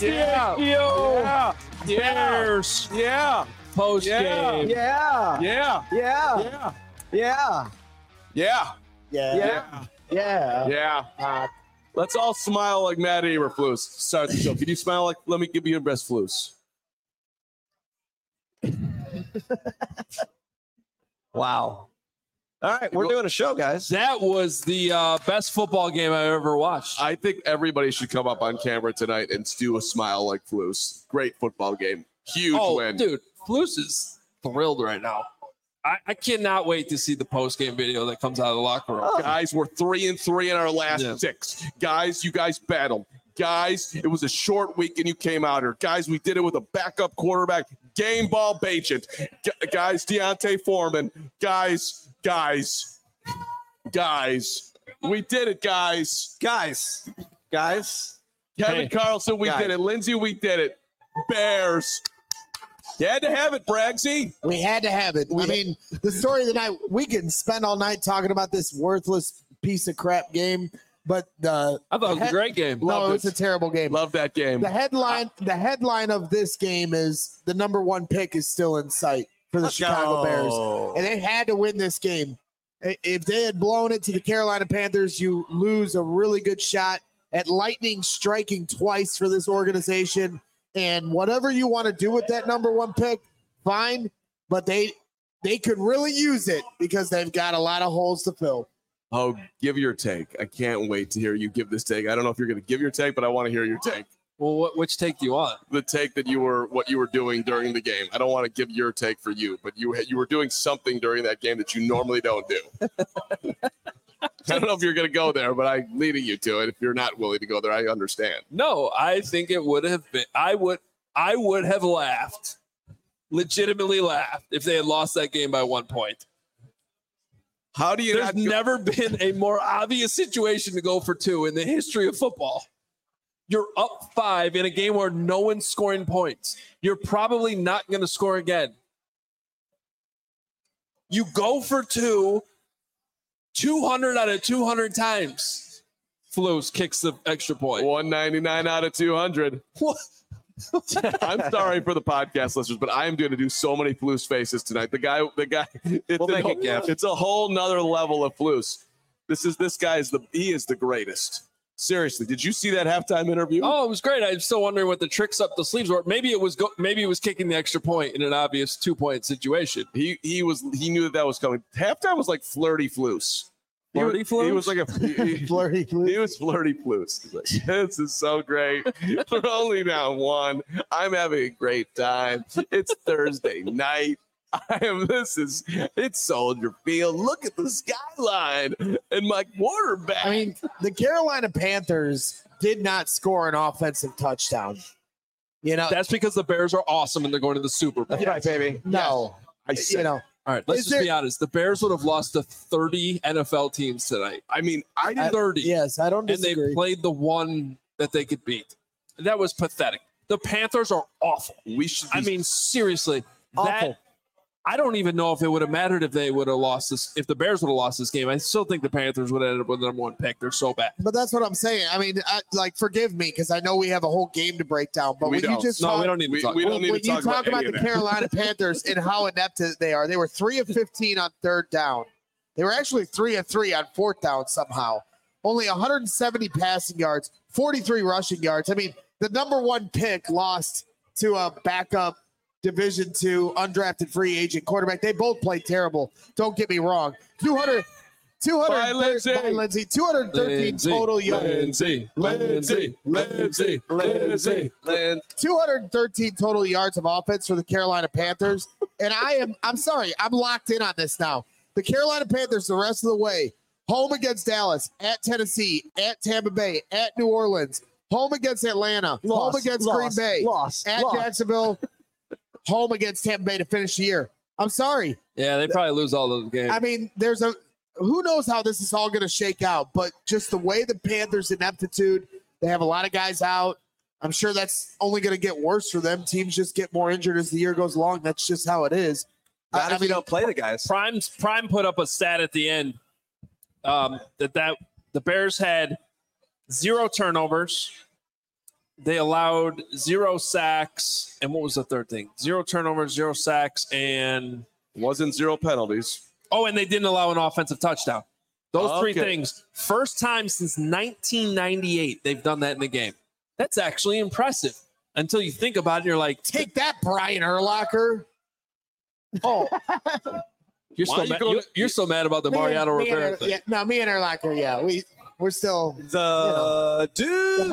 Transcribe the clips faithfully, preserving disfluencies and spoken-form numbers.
Yeah. Yeah. Bears. Yeah. Post game. Yeah. Yeah. Yeah. Yeah. Yeah. Yeah. Yeah. Yeah. Yeah. Yeah. Uh, let's all smile like Matt Eberflus. Start the show. Can you smile like, let me give you your best flus. Wow. All right, we're doing a show, guys. That was the uh, best football game I ever watched. I think everybody should come up on camera tonight and do a smile like Flus. Great football game. Huge oh, win. dude, Flus is thrilled right now. I, I cannot wait to see the post-game video that comes out of the locker room. Oh. Guys, we're three and three in our last Yeah. six. Guys, you guys battled. Guys, it was a short week and you came out here. Guys, we did it with a backup quarterback. Game ball Bajent. G- guys, Deontay Foreman. Guys, guys, guys. We did it, guys. Guys. Guys. Kevin Hey. Carlson, we Guys. did it. Lindsay, we did it. Bears. You had to have it, Bragsy. We had to have it. I mean, the story of the night, we can spend all night talking about this worthless piece of crap game, but the I thought it was a great game. no, Loved it's it. a terrible game. Love that game. The headline, the headline of this game is the number one pick is still in sight for the Let's Chicago go. Bears, and they had to win this game. I- If they had blown it to the Carolina Panthers, you lose a really good shot at lightning striking twice for this organization. And whatever you want to do with that number one pick, fine. But they they could really use it because they've got a lot of holes to fill. Oh, give your take. I can't wait to hear you give this take. I don't know if you're going to give your take, but I want to hear your take. Well, what, which take do you want? The take that you were, what you were doing during the game. I don't want to give your take for you, but you you were doing something during that game that you normally don't do. I don't know if you're going to go there, but I'm leading you to it. If you're not willing to go there, I understand. No, I think it would have been. I would. I would have laughed, legitimately laughed, if they had lost that game by one point. How do you There's not go- never been a more obvious situation to go for two in the history of football. You're up five in a game where no one's scoring points. You're probably not going to score again. You go for two, two hundred out of two hundred times. Flus kicks the extra point. one ninety-nine out of two hundred? What? I'm sorry for the podcast listeners, but I am going to do so many Flus faces tonight. The guy, the guy, it's, We'll a, make it, Gav. it's a whole nother level of Flus. This is this guy is the he is the greatest. Seriously, did you see that halftime interview? Oh, it was great. I'm still wondering what the tricks up the sleeves were. Maybe it was go- maybe it was kicking the extra point in an obvious two point situation. He he was he knew that that was coming. Halftime was like flirty Flus. He Flirty was, Flus? He was like a he, he- Flirty, he was flirty Flus. He's like, this is so great. We're only down one. I'm having a great time. It's Thursday night. I am. This is it's Soldier Field. Look at the skyline and my quarterback. I mean, the Carolina Panthers did not score an offensive touchdown. You know, That's because the Bears are awesome and they're going to the Super Bowl. That's right, baby. no, I said, you know, All right, let's Is just there- be honest. The Bears would have lost to thirty N F L teams tonight. I mean, I I- didn't. thirty. yes, I don't And they disagree. played the one that they could beat. That was pathetic. The Panthers are awful. We should. Be, I mean, seriously, Awful. that I don't even know if it would have mattered if they would have lost this. If the Bears would have lost this game, I still think the Panthers would have ended up with the number one pick. They're so bad. But that's what I'm saying. I mean, I, like, forgive me because I know we have a whole game to break down. But We when don't. you just No, talk, we don't need to we, talk. we about don't it. need when to you talk, talk about, any the of that. Carolina Panthers and how inept they are, they were three of fifteen on third down. They were actually three of three on fourth down somehow. Only one hundred seventy passing yards, forty-three rushing yards. I mean, the number one pick lost to a backup Division two undrafted free agent quarterback. They both played terrible. Don't get me wrong. two hundred, two hundred Bye, Lindsay. Bye, Lindsay. two hundred thirteen Lindsay, total yards. Lindsay, Lindsay, Lindsay, Lindsay. Lynn. two hundred thirteen total yards of offense for the Carolina Panthers. And I am, I'm sorry, I'm locked in on this now. The Carolina Panthers, the rest of the way, home against Dallas, at Tennessee, at Tampa Bay, at New Orleans, home against Atlanta, home Loss, against loss, Green Bay, loss, at loss. Jacksonville, home against Tampa Bay to finish the year. I'm sorry. Yeah, they probably lose all those games. I mean, there's a, who knows how this is all going to shake out, but just the way the Panthers' ineptitude, they have a lot of guys out. I'm sure that's only going to get worse for them. Teams just get more injured as the year goes along. That's just how it is. Not I- if I you mean, don't play the guys. Prime's Prime put up a stat at the end um, that that the Bears had zero turnovers, they allowed zero sacks. And what was the third thing? Zero turnovers, zero sacks, and Wasn't zero penalties. oh, and they didn't allow an offensive touchdown. Those three Okay. things. First time since nineteen ninety-eight they've done that in the game. That's actually impressive. Until you think about it, you're like, Take that, Brian Urlacher. Oh, you're Why so are you mad. going You're, to- you're so mad about the me and- Mariano me and Rivera Ur- thing. yeah, no, me and Urlacher, yeah, we we're still. The Duke.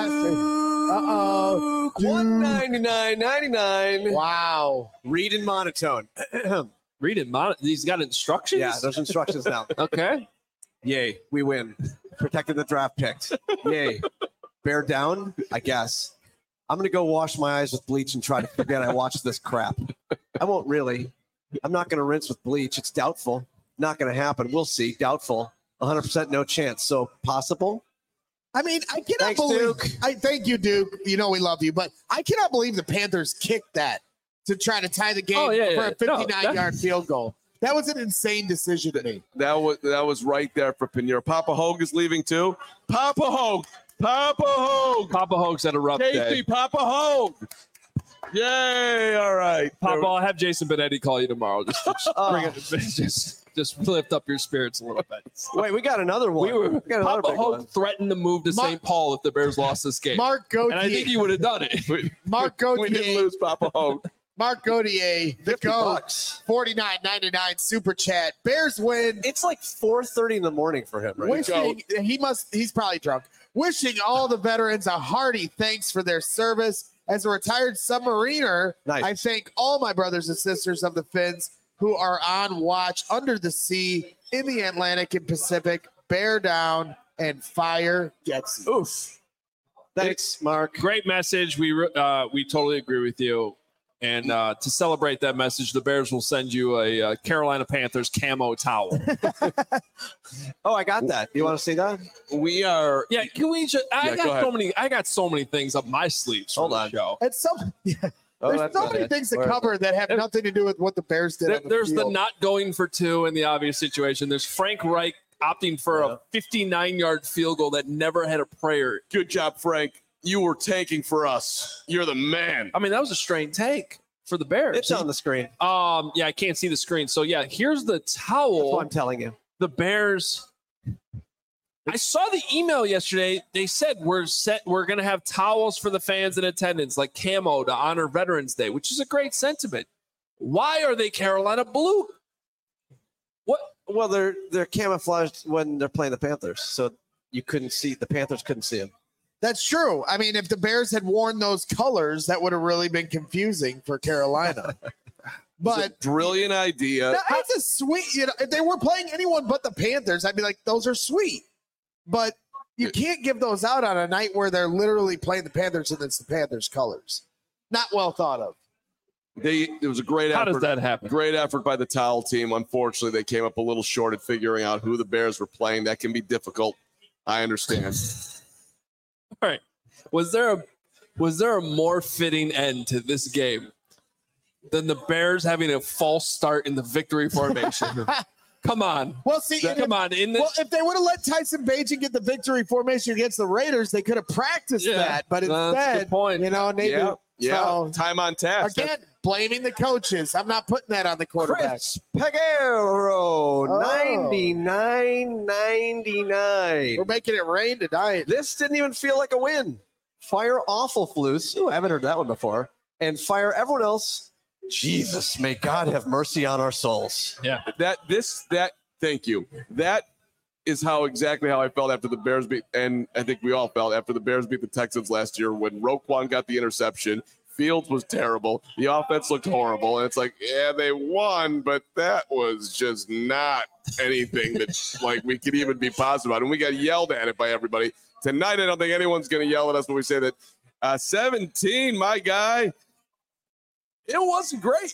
Uh-oh. one ninety-nine ninety-nine. Wow. Read in monotone. Read it. Mon- he's got instructions. Yeah, there's instructions now. Okay. Yay, we win. Protected the draft picks. Yay. Bear down, I guess. I'm going to go wash my eyes with bleach and try to forget I watched this crap. I won't really. I'm not going to rinse with bleach. It's doubtful. Not going to happen. We'll see. Doubtful. one hundred percent no chance. So possible. I mean, I cannot Thanks, believe. Duke. I thank you, Duke. You know we love you, but I cannot believe the Panthers kicked that to try to tie the game Oh, yeah, for yeah. a No, fifty-nine that- yard field goal. That was an insane decision to me. That was that was right there for Pinheiro. Papa Hogue is leaving too. Papa Hogue. Papa Hogue. Papa Hogue's had a rough Casey, day. Papa Hogue. Yay. All right. Papa, I'll have Jason Benetti call you tomorrow. Just, just bring it. Just, just lift up your spirits a little bit. Wait, we got another one. We were We got another Papa big Hogue one. threatened to move to Mark- Saint Paul if the Bears lost this game, Mark and I think Gauthier. he would have done it. Mark We didn't Gauthier. lose Papa Hogue. Mark Gauthier. The fifty go. bucks. forty-nine ninety-nine super chat. Bears win. It's like four thirty in the morning for him, right? Wishing he must. He's probably drunk. Wishing all the veterans a hearty thanks for their service. As a retired submariner, Nice. I thank all my brothers and sisters of the Finns who are on watch under the sea in the Atlantic and Pacific. Bear down and fire gets you. Oof. Thanks, Mark. Great message. We re- uh, we totally agree with you. And uh, to celebrate that message, the Bears will send you a, uh Carolina Panthers camo towel. Oh, I got that. You want to see that? We are Yeah, can we just? I Yeah, go got ahead. so many. I got so many things up my sleeves. For Hold the on. show. And some, yeah, Oh, there's that's so not many it. things to Where is cover that have There- nothing to do with what the Bears did. There- on the there's the field. not going for two in the obvious situation. There's Frank Reich opting for Yeah. a fifty-nine yard field goal that never had a prayer. good job, Frank. You were tanking for us. You're the man. I mean, that was a strained take for the Bears. It's on the screen. Um, yeah, I can't see the screen. So yeah, here's the That's towel. what I'm telling you. The Bears. I saw the email yesterday. They said we're set. We're gonna have towels for the fans in attendance, like camo to honor Veterans Day, which is a great sentiment. Why are they Carolina blue? What? Well, they're they're camouflaged when they're playing the Panthers, so you couldn't see the Panthers couldn't see them. That's true. I mean, if the Bears had worn those colors, that would have really been confusing for Carolina. It's a But brilliant idea. no, it's a sweet. You know, if they were playing anyone but the Panthers, I'd be like, those are sweet. But you can't give those out on a night where they're literally playing the Panthers and it's the Panthers colors. Not well thought of. They it was a great How effort. does that happen? Great effort by the towel team. Unfortunately, they came up a little short at figuring out who the Bears were playing. That can be difficult. I understand. All right. Was there a was there a more fitting end to this game than the Bears having a false start in the victory formation? Come on. Well, see, and Come if, on. In the, well, if they would have let Tyson Bagent get the victory formation against the Raiders, they could have practiced Yeah, that. But that's a instead, good point. you know, maybe yeah, yeah. so- Time on task. again blaming the coaches. I'm not putting that on the quarterback. Chris Peguero, Oh. ninety-nine ninety-nine. We're making it rain tonight. This didn't even feel like a win. Fire awful flus. Ooh, I haven't heard that one before. And fire everyone else. Jesus, may God have mercy on our souls. yeah. That this that thank you. That is how exactly how I felt after the Bears beat, and I think we all felt after the Bears beat the Texans last year when Roquan got the interception. Fields was terrible. The offense looked horrible, and it's like, yeah, they won, but that was just not anything that like we could even be positive about. And we got yelled at it by everybody tonight. I don't think anyone's going to yell at us when we say that. Uh, seventeen, my guy. It wasn't great.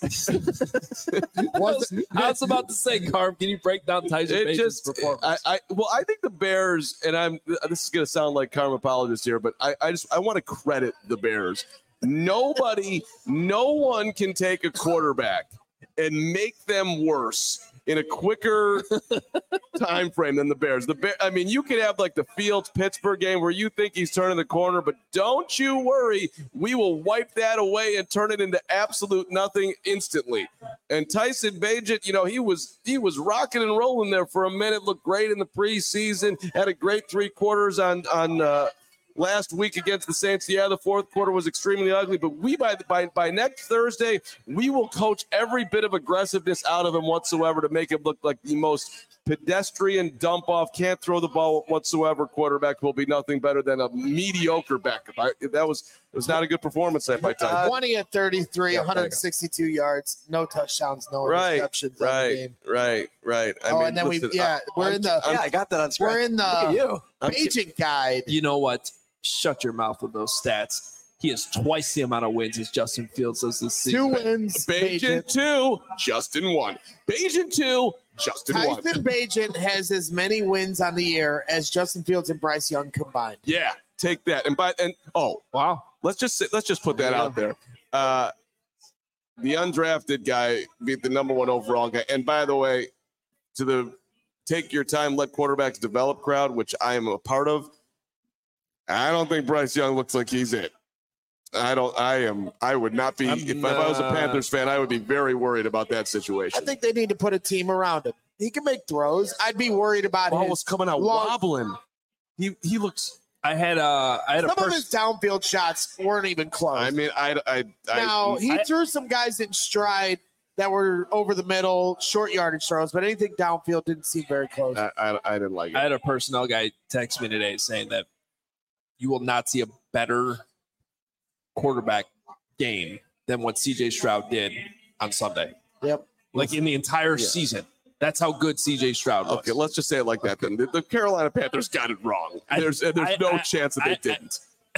Was I was about to say, Carm, can you break down Tyson It Bacon's just, performance? I, I, well, I think the Bears, and I'm. This is going to sound like karma apologist here, but I, I just, I want to credit the Bears. Nobody, no one can take a quarterback and make them worse in a quicker time frame than the Bears. The Bear, I mean, you could have like the Fields Pittsburgh game where you think he's turning the corner, but don't you worry, we will wipe that away and turn it into absolute nothing instantly. And Tyson Bagent, you know, he was he was rocking and rolling there for a minute, looked great in the preseason, had a great three quarters on on uh, last week against the Saints. Yeah, the fourth quarter was extremely ugly, but we by by by next Thursday, we will coach every bit of aggressiveness out of him whatsoever to make him look like the most pedestrian dump off, can't throw the ball whatsoever quarterback will be nothing better than a mediocre backup. I, that was it was not a good performance that by time. twenty at thirty-three, Yeah, one hundred sixty-two yards, no touchdowns, no Right, interceptions. on the right, game. right, right. I Oh, mean, and then we, listen, yeah, I- we're I'm- in the Yeah, I got that on screen. we're in Look at the you. I'm- agent guide. You know what? Shut your mouth with those stats. He has twice the amount of wins as Justin Fields does this Two season. wins. Bagent two, Justin one. Bagent two, Justin one. Tyson Bagent has as many wins on the year as Justin Fields and Bryce Young combined. Yeah, take that. And by and oh, Wow. let's just say, let's just put that out there. Uh, the undrafted guy beat the number one overall guy. And by the way, to the take your time, let quarterbacks develop crowd, which I am a part of. I don't think Bryce Young looks like he's it. I don't. I am. I would not be. I'm If, if I was a not- Panthers fan, I would be very worried about that I situation. think they need to put a team around him. He can make throws. I'd be worried about Ball his, was coming out long- wobbling. He he looks. I had uh I had a some of person. his downfield shots weren't even close. I mean, I I I. now he I- threw some guys in stride that were over the middle, short yardage throws, but anything downfield didn't seem very close. I, I, I didn't like it. I had a personnel guy text me today saying that you will not see a better quarterback game than what C J Stroud did on Sunday. Yep. Like in the entire Yeah. season. That's how good C J Stroud was. Okay, let's just say it like that then. The, the Carolina Panthers got it wrong. I- There's there's I- no I- chance that they I- I- didn't.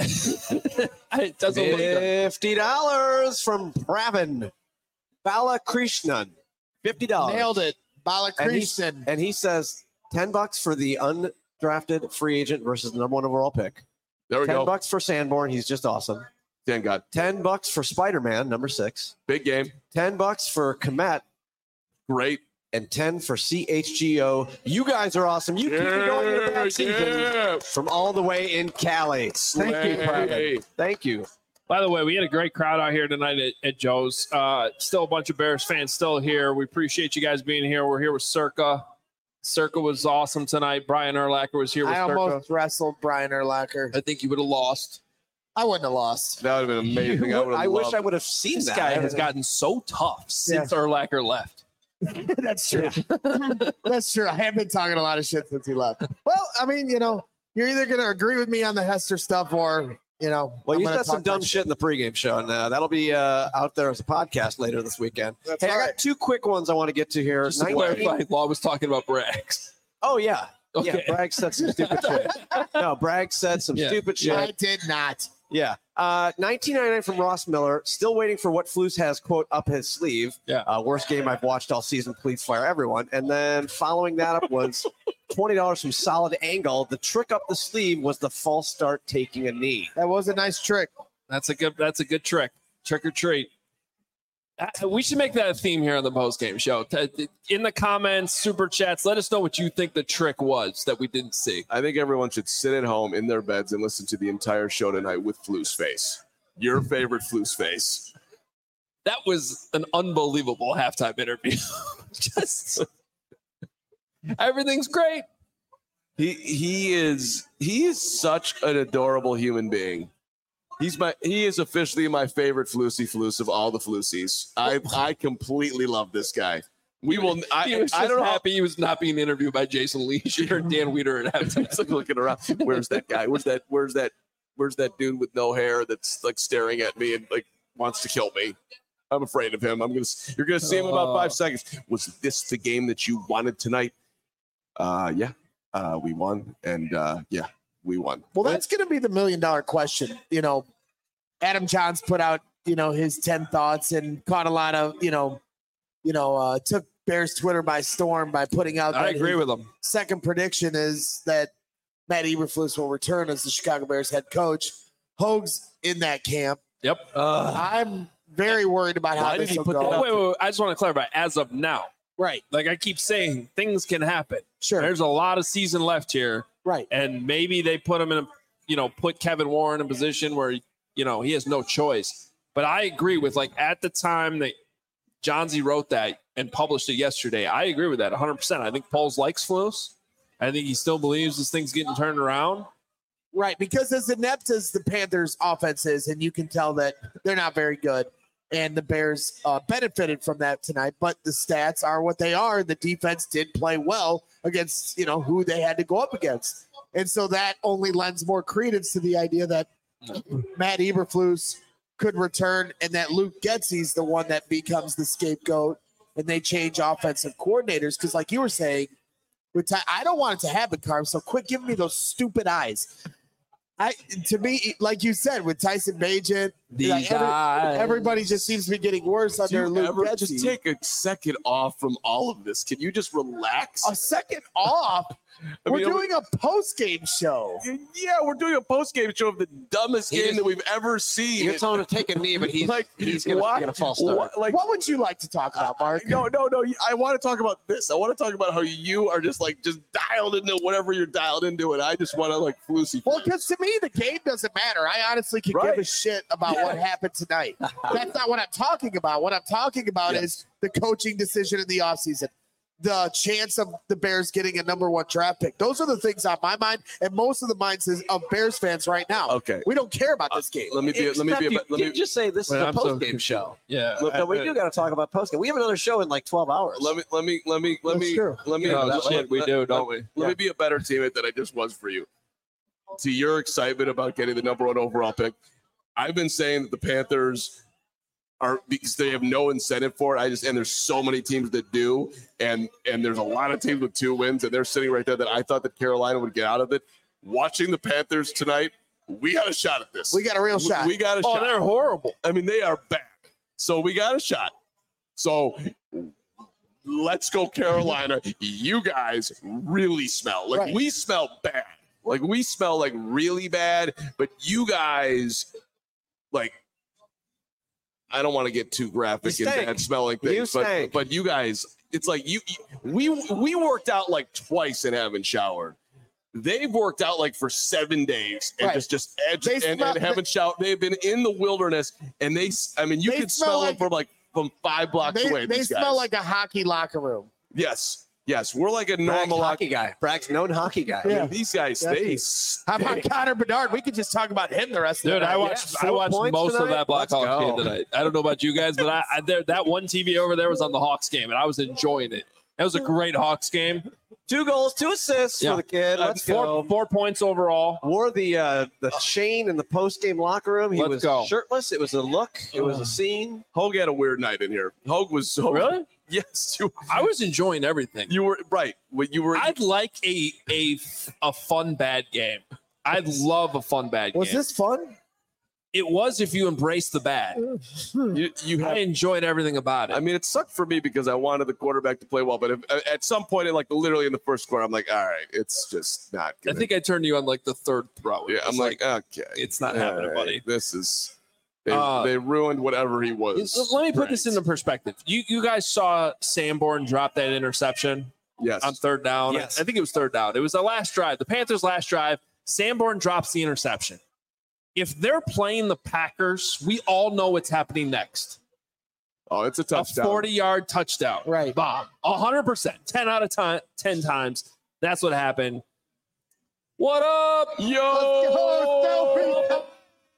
it doesn't look good. Fifty dollars from Pravin Balakrishnan. Fifty dollars. Nailed it. And, he, Balakrishnan. and he says ten bucks for the undrafted free agent versus the number one overall pick. There we Ten go. bucks for Sanborn. He's just awesome. Thank God. Ten bucks for Spider Man, number six. Big game. Ten bucks for Komet, Great. and ten for C H G O. You guys are awesome. You keep it going in a bad season yeah. from all the way in Cali. Thank you, Pravin. Hey. Thank you. By the way, we had a great crowd out here tonight at, at Joe's. Uh, still a bunch of Bears fans still here. We appreciate you guys being here. We're here with Circa. Circa was awesome tonight. Brian Urlacher was here with I Circa. almost wrestled Brian Urlacher. I think you would have lost. I wouldn't have lost. That would have been amazing. I, You would- would've I wish loved- I would have seen This that. guy has gotten so tough since Yeah. Urlacher left. That's true. That's true. I have been talking a lot of shit since he left. Well, I mean, you know, you're either going to agree with me on the Hester stuff or, you know, Well, I'm you gonna said some talk dumb my shit in the pregame show, and uh, that'll be uh, out there as a podcast later this weekend. That's hey, I right. got two quick ones I want to get to here. Just to nineteen clarify, Law was talking about Braggs. Oh yeah, Okay. yeah. Bragg said some stupid shit. No, Bragg said some Yeah. stupid shit. I did not. Yeah. Uh, nineteen ninety-nine from Ross Miller. Still waiting for what Flus has, quote, up his sleeve. Yeah. Uh, worst game I've watched all season. Please fire everyone. And then following that up was twenty dollars from Solid Angle. The trick up the sleeve was the false start taking a knee. That was a nice trick. That's a good. That's a good trick. Trick or treat. Uh, we should make that a theme here on the post game show. T- In the comments, super chats, let us know what you think the trick was that we didn't see. I think everyone should sit at home in their beds and listen to the entire show tonight with Flu's face. Your favorite Flu's face. That was an unbelievable halftime interview. Just everything's great. He he is he is such an adorable human being. He's my he is officially my favorite Flusy Flus of all the Flusies. I I completely love this guy. We will. He I, was just I don't know. happy he was not being interviewed by Jason Leisure and Dan Weeder at halftime. He's like looking around. Where's that guy? Where's that? Where's that? Where's that dude with no hair that's like staring at me and like wants to kill me? I'm afraid of him. I'm gonna. You're gonna see him in about five seconds. Was this the game that you wanted tonight? Uh, yeah. Uh, we won, and uh, yeah, we won. Well, that's going to be the million dollar question. You know, Adam Johns put out, you know, his ten thoughts and caught a lot of, you know, you know, uh, took Bears Twitter by storm by putting out. I that agree his with him. Second prediction is that Matt Eberflus will return as the Chicago Bears head coach. Hoag's in that camp. Yep. I'm very worried about how Why did this he will put go. that Oh, out? wait, wait, wait. I just want to clarify. As of now, Right. Like I keep saying, things can happen. Sure. There's a lot of season left here. Right. And maybe they put him in a, you know, put Kevin Warren in a position where, you know, he has no choice. But I agree with, like, at the time that John Z wrote that and published it yesterday, I agree with that one hundred percent. I think Poles likes Flus. I think he still believes this thing's getting turned around. Right. Because as inept as the Panthers offense is, and you can tell that they're not very good, and the Bears uh, benefited from that tonight, but the stats are what they are. The defense did play well against, you know, who they had to go up against. And so that only lends more credence to the idea that Matt Eberflus could return and that Luke Getsy's the one that becomes the scapegoat and they change offensive coordinators. Because like you were saying, with Ty- I don't want it to happen, Carm, so quit giving me those stupid eyes. I to me, like you said, with Tyson Bagent, These like every- eyes. everybody just seems to be getting worse Do under you Luke ever Getsy. just take a second off from all of this? Can you just relax? a second off. I We're mean, doing a post-game show. Yeah, we're doing a post-game show of the dumbest He game just- that we've ever seen. You're telling him to take a knee, but he's like, he's gonna why- get a false start. why- like, What would you like to talk about, Mark? no, no, no. I want to talk about this. I want to talk about how you are just like just dialed into whatever you're dialed into, and I just want to like Flusy. Well, because to me, the game doesn't matter. I honestly can Right. give a shit about Yeah. what happened tonight. That's not what I'm talking about. What I'm talking about Yes. is the coaching decision in the offseason, the chance of the Bears getting a number one draft pick. Those are the things on my mind and most of the minds is- of Bears fans right now. Okay. We don't care about this game. Let me be. Let me Except be. you, Let you me. just say this Wait, is a I'm so post game confused. show. Yeah. Look, No, we do got to talk about post game. We have another show in like twelve hours. Let me. Let me. Let me. Let That's me. true. Let me. Yeah, Oh, that let- shit, we let- do, let- don't we? Let me be a better teammate than I just was for you. To your excitement about getting the number one overall pick, I've been saying that the Panthers are because they have no incentive for it. I just and there's so many teams that do, and and there's a lot of teams with two wins, and they're sitting right there that I thought that Carolina would get out of it. Watching the Panthers tonight, we got a shot at this. We got a real We- shot. We got a Oh, shot. they're horrible. I mean, they are back. So we got a shot. So let's go, Carolina. You guys really smell. Like Right. we smell bad. Like we smell like really bad, but you guys like I don't want to get too graphic You and stink. bad smelling You things, but stink. but you guys, it's like you, you we we worked out like twice and haven't showered. They've worked out like for seven days and Right. just just edge They and, smell- and haven't showered. They've been in the wilderness and they, s- I mean, you They could smell smell like- them from like from five blocks They, away. they these smell guys. like a hockey locker room. yes, yes, we're like a Bragg's normal hockey. hockey guy. Bragg's known hockey guy. I mean, Yeah. these guys, Yeah. they How about stink. Connor Bedard? We could just talk about him the rest of Dude, the night. I watched Yeah, I four watched points most of tonight? that Let's Blackhawks go. game tonight. I don't know about you guys, but I, I there that one T V over there was on the Hawks game, and I was enjoying it. That was a great Hawks game. Two goals, two assists Yeah. for the kid. Uh, Let's four, go. four points overall. Wore the uh, the chain in the post game locker room. He Let's was go. shirtless. It was a look. It was a scene. Hogue had a weird night in here. Hogue was so Really? Yes, you, I was enjoying everything. you were right. When you were, I'd like a a a fun bad game. I'd love a fun bad Was game. this fun? It was if you embrace the bad. you, you I have. enjoyed everything about it. I mean, it sucked for me because I wanted the quarterback to play well, but if, at some point, in like literally in the first quarter, I'm like, all right, it's just not. I Gonna, think I turned you on like the third throw. yeah, I'm It's like, okay, it's not all happening, right, buddy. This is. They, Uh, they ruined whatever he was. Let me put this Right. into perspective. You you guys saw Sanborn drop that interception Yes. on third down. Yes. I think it was third down. It was the last drive. The Panthers' last drive. Sanborn drops the interception. If they're playing the Packers, we all know what's happening next. Oh, it's a A touchdown. forty-yard touchdown. Right. Bomb. one hundred percent. ten out of ten, ten times. That's what happened. What up? Yo.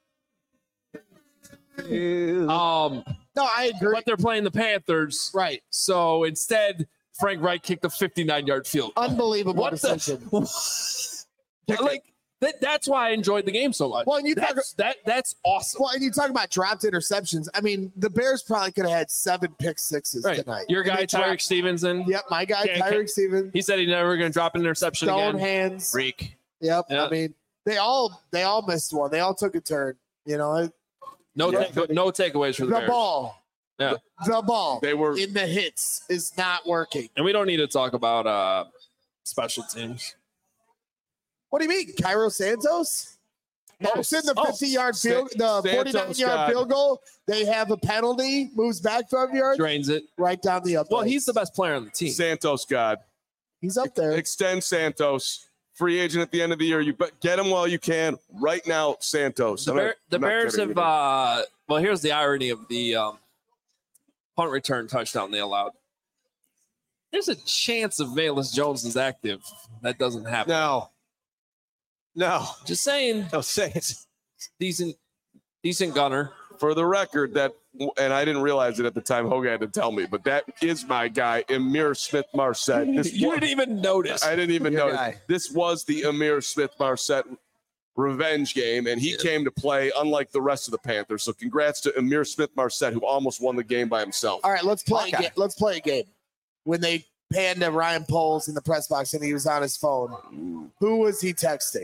Um, No, I agree. but they're playing the Panthers. Right. So instead, Frank Wright kicked a fifty-nine-yard field goal. Unbelievable What the- decision. like that, that's why I enjoyed the game so much. Well, and you talk, that's, that that's awesome. well, and you talk about dropped interceptions. I mean, the Bears probably could have had seven pick sixes Right. tonight. Your And guy they Tyreek dropped- Stevenson. Yep, my guy Can't- Tyreek can't- Stevens. He said he's never going to drop an interception Stone again. hands. Freak. Yep. Yeah. I mean, they all they all missed one. They all took a turn. You know, it- No, Yeah. take, no takeaways for the, the Bears. ball. Yeah. The, the ball They were. in the hits is not working. And we don't need to talk about uh, special teams. What do you mean, Cairo Santos? Knocks in the Oh, fifty-yard field, the Santos forty-nine-yard got- field goal. They have a penalty, moves back five yards, Drains it. right down the up. Well, he's the best player on the team. Santos God. he's up there. Extend Santos. Free agent at the end of the year. You bet, get him while you can. Right now, Santos. The, I'm not- Bear, the I'm not Bears kidding have. you. Uh, well, here's the irony of the um, punt return touchdown they allowed. There's a chance if Velus Jones is active. That doesn't happen. No. No. Just saying, Don't say it. decent, decent gunner. For the record, that and I didn't realize it at the time. Hogan had to tell me, but that is my guy, Amir Smith Marset. This You was- didn't even notice. I didn't even Your know. guy. This was the Amir Smith Marset revenge game, and he came to play unlike the rest of the Panthers. So congrats to Amir Smith Marset, who almost won the game by himself. All right, let's play. A Okay. ga- let's play a game. When they panned to Ryan Poles in the press box and he was on his phone, who was he texting?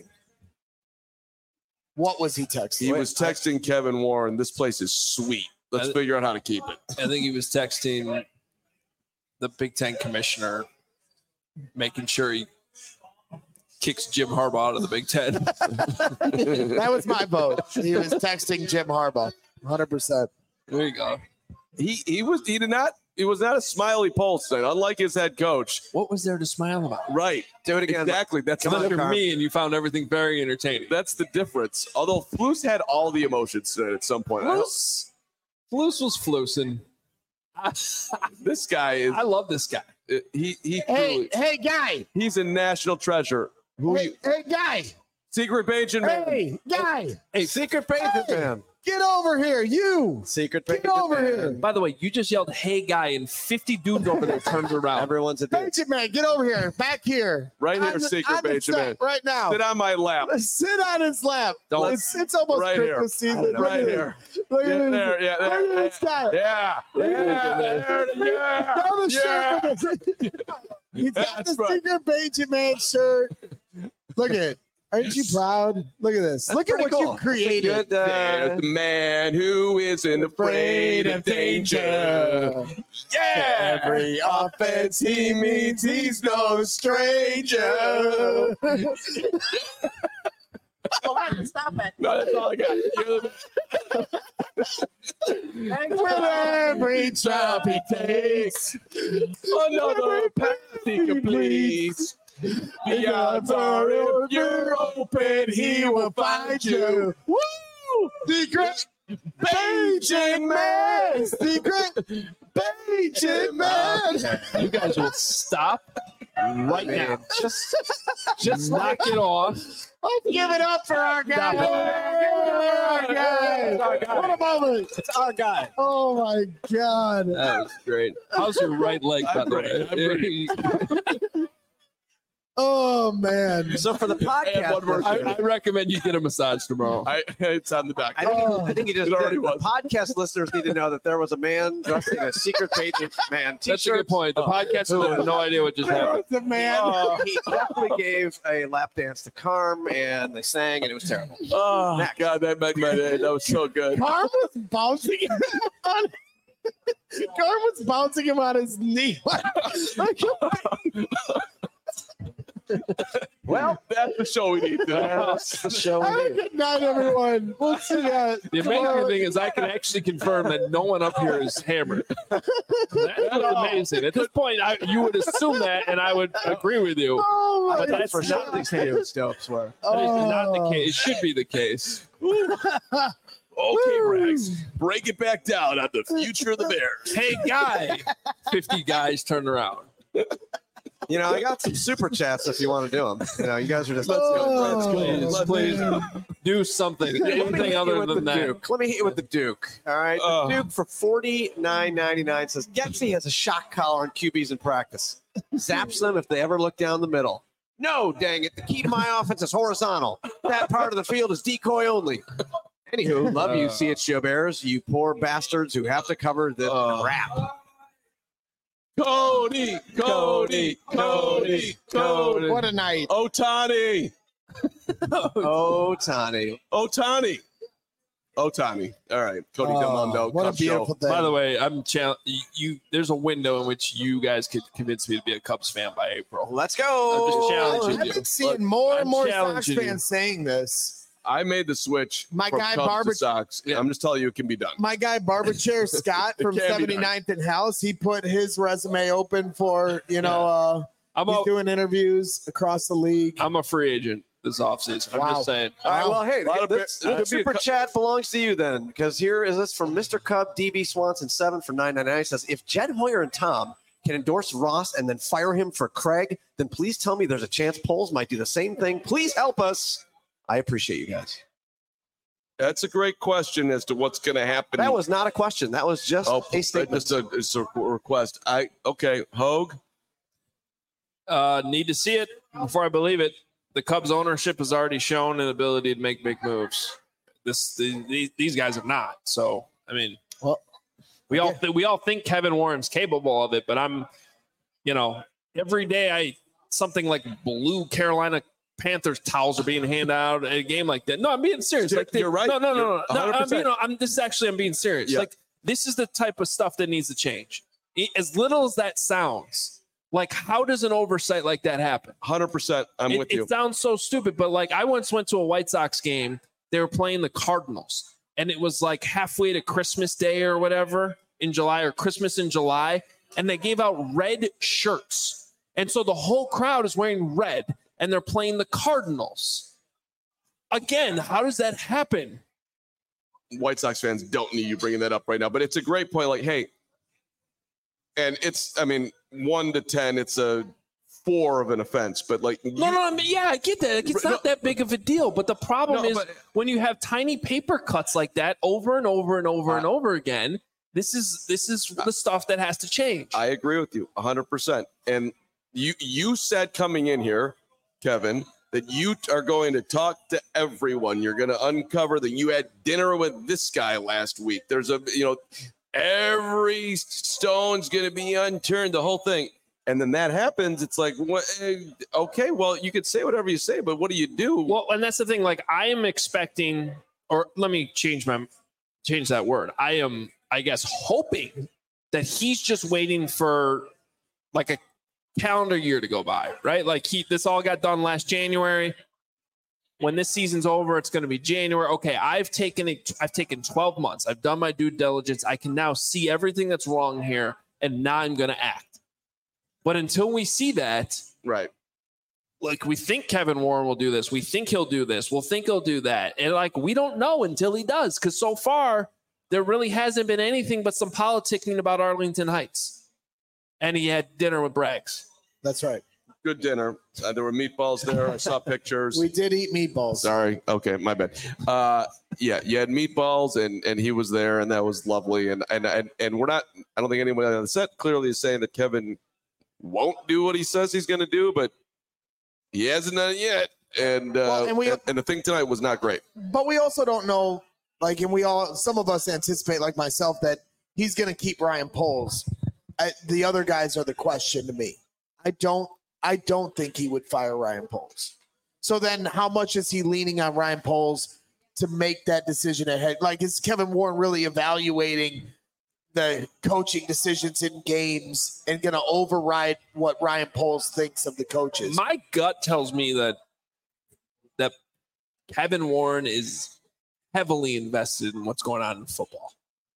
What was he texting? He was texting Kevin Warren, this place is sweet. Let's I- figure out how to keep it. I think he was texting the Big Ten commissioner, making sure he kicks Jim Harbaugh out of the Big Ten. That was my vote. He was texting Jim Harbaugh, one hundred percent. There you go. He he was he did not it was not a smiley pulse thing, unlike his head coach. What was there to smile about? Right. Do it again. Exactly. That's Come on, Look the, at Carm. me, and you found everything very entertaining. that's the difference. Although Flus had all the emotions today at some point. I don't- Flus, Flus was flusing. I, This guy is I love this guy. he he Hey, truly, hey, guy. he's a national treasure. Who Hey, you, hey, guy. Secret Agent man. Hey, guy. Hey, Secret Patriot Hey. fan. Get over here, you. Secret Get Patriot over fan. here. By the way, you just yelled, "Hey, guy," and fifty dudes over there turned around. Everyone's a dude. Patriot man, get over here. Back here. Right On here, the- Secret on the Agent set man. Right now. Sit on my lap. Sit on his lap. Don't- It's, it's almost Right here. Christmas season. Look Right at here. this. Look at Yeah, this. there, yeah, Look there, at this guy. Yeah. Yeah. there, yeah. Got the Yeah. shirt with it. He's got That's the right. Secret Patriot man shirt. Look at it. Aren't you proud? Look at this. That's Look at pretty what cool. you created. Good, uh, There's the man who isn't afraid of danger. Yeah. Every offense he meets, he's no stranger. Stop it. No, that's all I got. You're the With every drop he takes, another path he completes. The odds are if you're open, he will find you. Woo! Secret Patriot man. Secret Patriot man. You guys will stop right now. Just, just knock it off. Let's give it up for our guy. Stop it. Our guy. What a moment. It's our guy. Oh my God. That was great. How's your right leg, by I'm the ready, I'm way? Oh man. So for the And one podcast, more I, thing. I recommend you get a massage tomorrow. I, it's on the dock. I think, Oh. I think you just It already did. The was. podcast listeners need to know that there was a man dressed in a Secret Patriot man t-shirt. That's a good point. The Oh. podcast will have no idea what just happened. The man. Oh, he definitely gave a lap dance to Carm, and they sang, and it was terrible. Oh, Next. God, that made my day. That was so good. Carm was bouncing him on. Carm was bouncing him on his knee. Like, Well, that's the show we need. That's the show have we a need. good night, everyone. We'll see ya. The amazing thing is I can actually confirm that no one up here is hammered. That's amazing. At this point, I, you would assume that, and I would agree with you. Oh my But that's For not the not case. dopes were. That is not the Oh. case. It should be the case. Okay, Rex, break it back down on the future of the Bears. Hey, guy. fifty guys turn around. You know, I got some super chats if you want to do them. You know, you guys are just. Oh, Please, please man. do something. Let me hit Anything you other with than the that. Duke. Let me hit you with the Duke. All right, the Oh. Duke for forty-nine ninety-nine says Getsy has a shock collar on Q Bs in practice. Zaps them if they ever look down the middle. No, dang it! The key to my offense is horizontal. That part of the field is decoy only. Anywho, love you, Uh. C H G O Bears. You poor bastards who have to cover the Uh. crap. Cody, Cody, Cody, Cody. What a night. Otani, Oh, Tani. Otani, Otani. All right, Cody Oh, Delmondo. what a Cubs show. beautiful day. By the way, I'm challenge you. There's a window in which you guys could convince me to be a Cubs fan by April. Let's I'm go. just challenging I've you. been seeing more I'm and more Sox challenging you. fans saying this. I made the switch. My from guy Cubs Barber- to Sox. Yeah. I'm just telling you, it can be done. My guy Barberchair Scott It from can be done. seventy-ninth and House, he put his resume open for, you know, uh, I'm he's a, doing interviews across the league. I'm a free agent this offseason. I'm Wow. just saying. All right, well, hey, A lot of this, it- it the could be a super cou- chat belongs to you then, because here is this from Mister Cub D B Swanson seven for nine ninety-nine. He says, if Jed Hoyer and Tom can endorse Ross and then fire him for Craig, then please tell me there's a chance Poles might do the same thing. Please help us. I appreciate you guys. That's a great question as to what's going to happen. That was not a question. That was just oh, a statement. just a, it's a request. I okay, Hogue. Uh, need to see it before I believe it. The Cubs ownership has already shown an ability to make big moves. This the, these, these guys have not. So I mean, Well, we all yeah. th- we all think Kevin Warren's capable of it, but I'm, you know, every day I something like blue Carolina Panthers towels are being handed out at a game like that. No, I'm being serious. You're- Like they- you're right. No, no, no, You're no. no one hundred I'm percent. being, I'm, this is actually I'm being serious. Yeah. Like this is the type of stuff that needs to change. I- As little as that sounds, like how does an oversight like that happen? one hundred percent. I'm it, with you. It sounds so stupid, but like I once went to a White Sox game. They were playing the Cardinals, and it was like halfway to Christmas Day or whatever in July, or Christmas in July, and they gave out red shirts, and so the whole crowd is wearing red, and they're playing the Cardinals. Again, how does that happen? White Sox fans don't need you bringing that up right now, but it's a great point. Like, hey, and it's, I mean, one to ten, it's a four of an offense, but like, No, no, I mean, yeah, I get that. Like, it's No, not that big of a deal, but the problem No, is but- when you have tiny paper cuts like that over and over and over and over again. This is this is the stuff that has to change. I agree with you one hundred percent. And you you said coming in here, Kevin, that you are going to talk to everyone. You're going to uncover that you had dinner with this guy last week. There's a, you know, every stone's going to be unturned, the whole thing. And then that happens. It's like, what? eh, Okay, well, you could say whatever you say, but what do you do? Well, and that's the thing. Like, I am expecting, or let me change my change that word. I am, I guess, hoping that he's just waiting for like a calendar year to go by, right? Like he, this all got done last January. When this season's over, it's going to be January. Okay, I've taken it. I've taken twelve months. I've done my due diligence. I can now see everything that's wrong here, and now I'm going to act. But until we see that, Right. like we think Kevin Warren will do this, we think he'll do this, we'll think he'll do that, and like we don't know until he does, because so far there really hasn't been anything but some politicking about Arlington Heights, and he had dinner with Braggs. That's right. Good dinner. Uh, there were meatballs there. I saw pictures. We did eat meatballs. Sorry. Okay, my bad. Uh, yeah, you had meatballs, and and he was there, and that was lovely. And and and, and we're not. I don't think anyone on the set clearly is saying that Kevin won't do what he says he's going to do, but he hasn't done it yet. And uh, Well, and we- and, and the thing tonight was not great. But we also don't know, like, and we all, some of us anticipate, like myself, that he's going to keep Ryan Poles. I, the other guys are the question to me. I don't, I don't think he would fire Ryan Poles. So then, how much is he leaning on Ryan Poles to make that decision ahead? Like, is Kevin Warren really evaluating the coaching decisions in games and going to override what Ryan Poles thinks of the coaches? My gut tells me that that Kevin Warren is heavily invested in what's going on in football.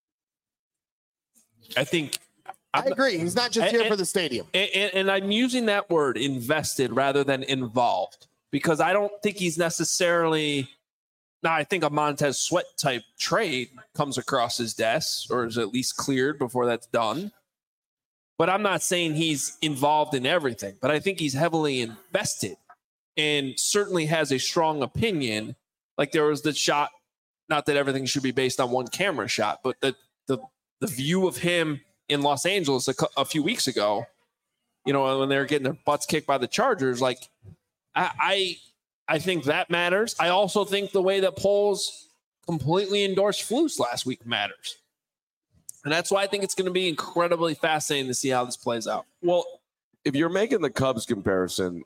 I think I agree. He's not just And- here and- for the stadium. And, and, and I'm using that word invested rather than involved, because I don't think he's necessarily. Now, I think a Montez Sweat type trade comes across his desk, or is at least cleared before that's done. But I'm not saying he's involved in everything, but I think he's heavily invested and certainly has a strong opinion. Like there was the shot, not that everything should be based on one camera shot, but the the, the view of him in Los Angeles a, a few weeks ago, you know, when they were getting their butts kicked by the Chargers, like I, I, I think that matters. I also think the way that Poles completely endorsed Flus last week matters. And that's why I think it's going to be incredibly fascinating to see how this plays out. Well, if you're making the Cubs comparison,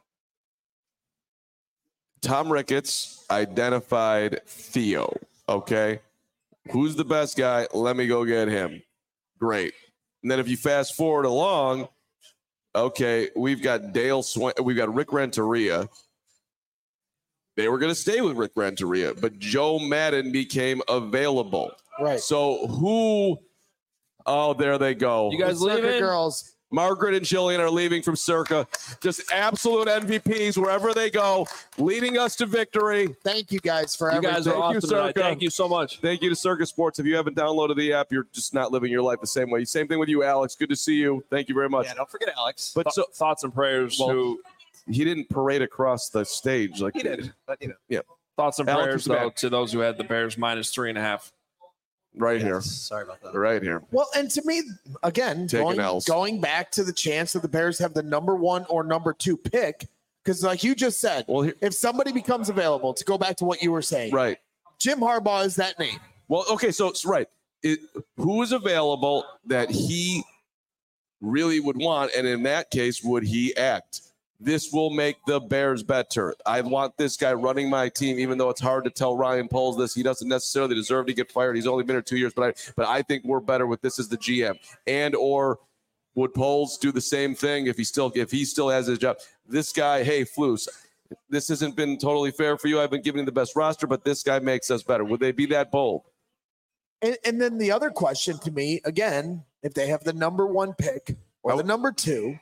Tom Ricketts identified Theo. Okay. Who's the best guy? Let me go get him. Great. And then if you fast forward along, okay, we've got Dale Swain, we've got Rick Renteria. they were going to stay with Rick Renteria, but Joe Madden became available. Right. So who? Oh, there they go. You guys Circa leaving? girls. Margaret and Jillian are leaving from Circa. Just absolute M V Ps wherever they go, leading us to victory. Thank you guys for You everything. guys are Thank you, awesome tonight. Circa. Thank you so much. Thank you to Circa Sports. If you haven't downloaded the app, you're just not living your life the same way. Same thing with you, Alex. Good to see you. Thank you very much. Yeah, don't forget Alex. But so Thoughts and prayers Well, to he didn't parade across the stage like He did, but you know. thoughts and Alex prayers is back. though to those who had the Bears minus three and a half. right Yes, here, Sorry about that. right here. Well, and to me, again, Taking going, L's. going back to the chance that the Bears have the number one or number two pick, because like you just said, Well, here, if somebody becomes available, to go back to what you were saying, right. Jim Harbaugh is that name. Well, okay, so it's right. It, who is available that he really would want, and in that case, would he act? This will make the Bears better. I want this guy running my team, even though it's hard to tell Ryan Poles this. He doesn't necessarily deserve to get fired. He's only been here two years, but I, but I think we're better with this as the G M. And or would Poles do the same thing if he still if he still has his job? This guy, hey, Flus, this hasn't been totally fair for you. I've been giving you the best roster, but this guy makes us better. Would they be that bold? And, and then the other question to me, again, if they have the number one pick or I the would- number two,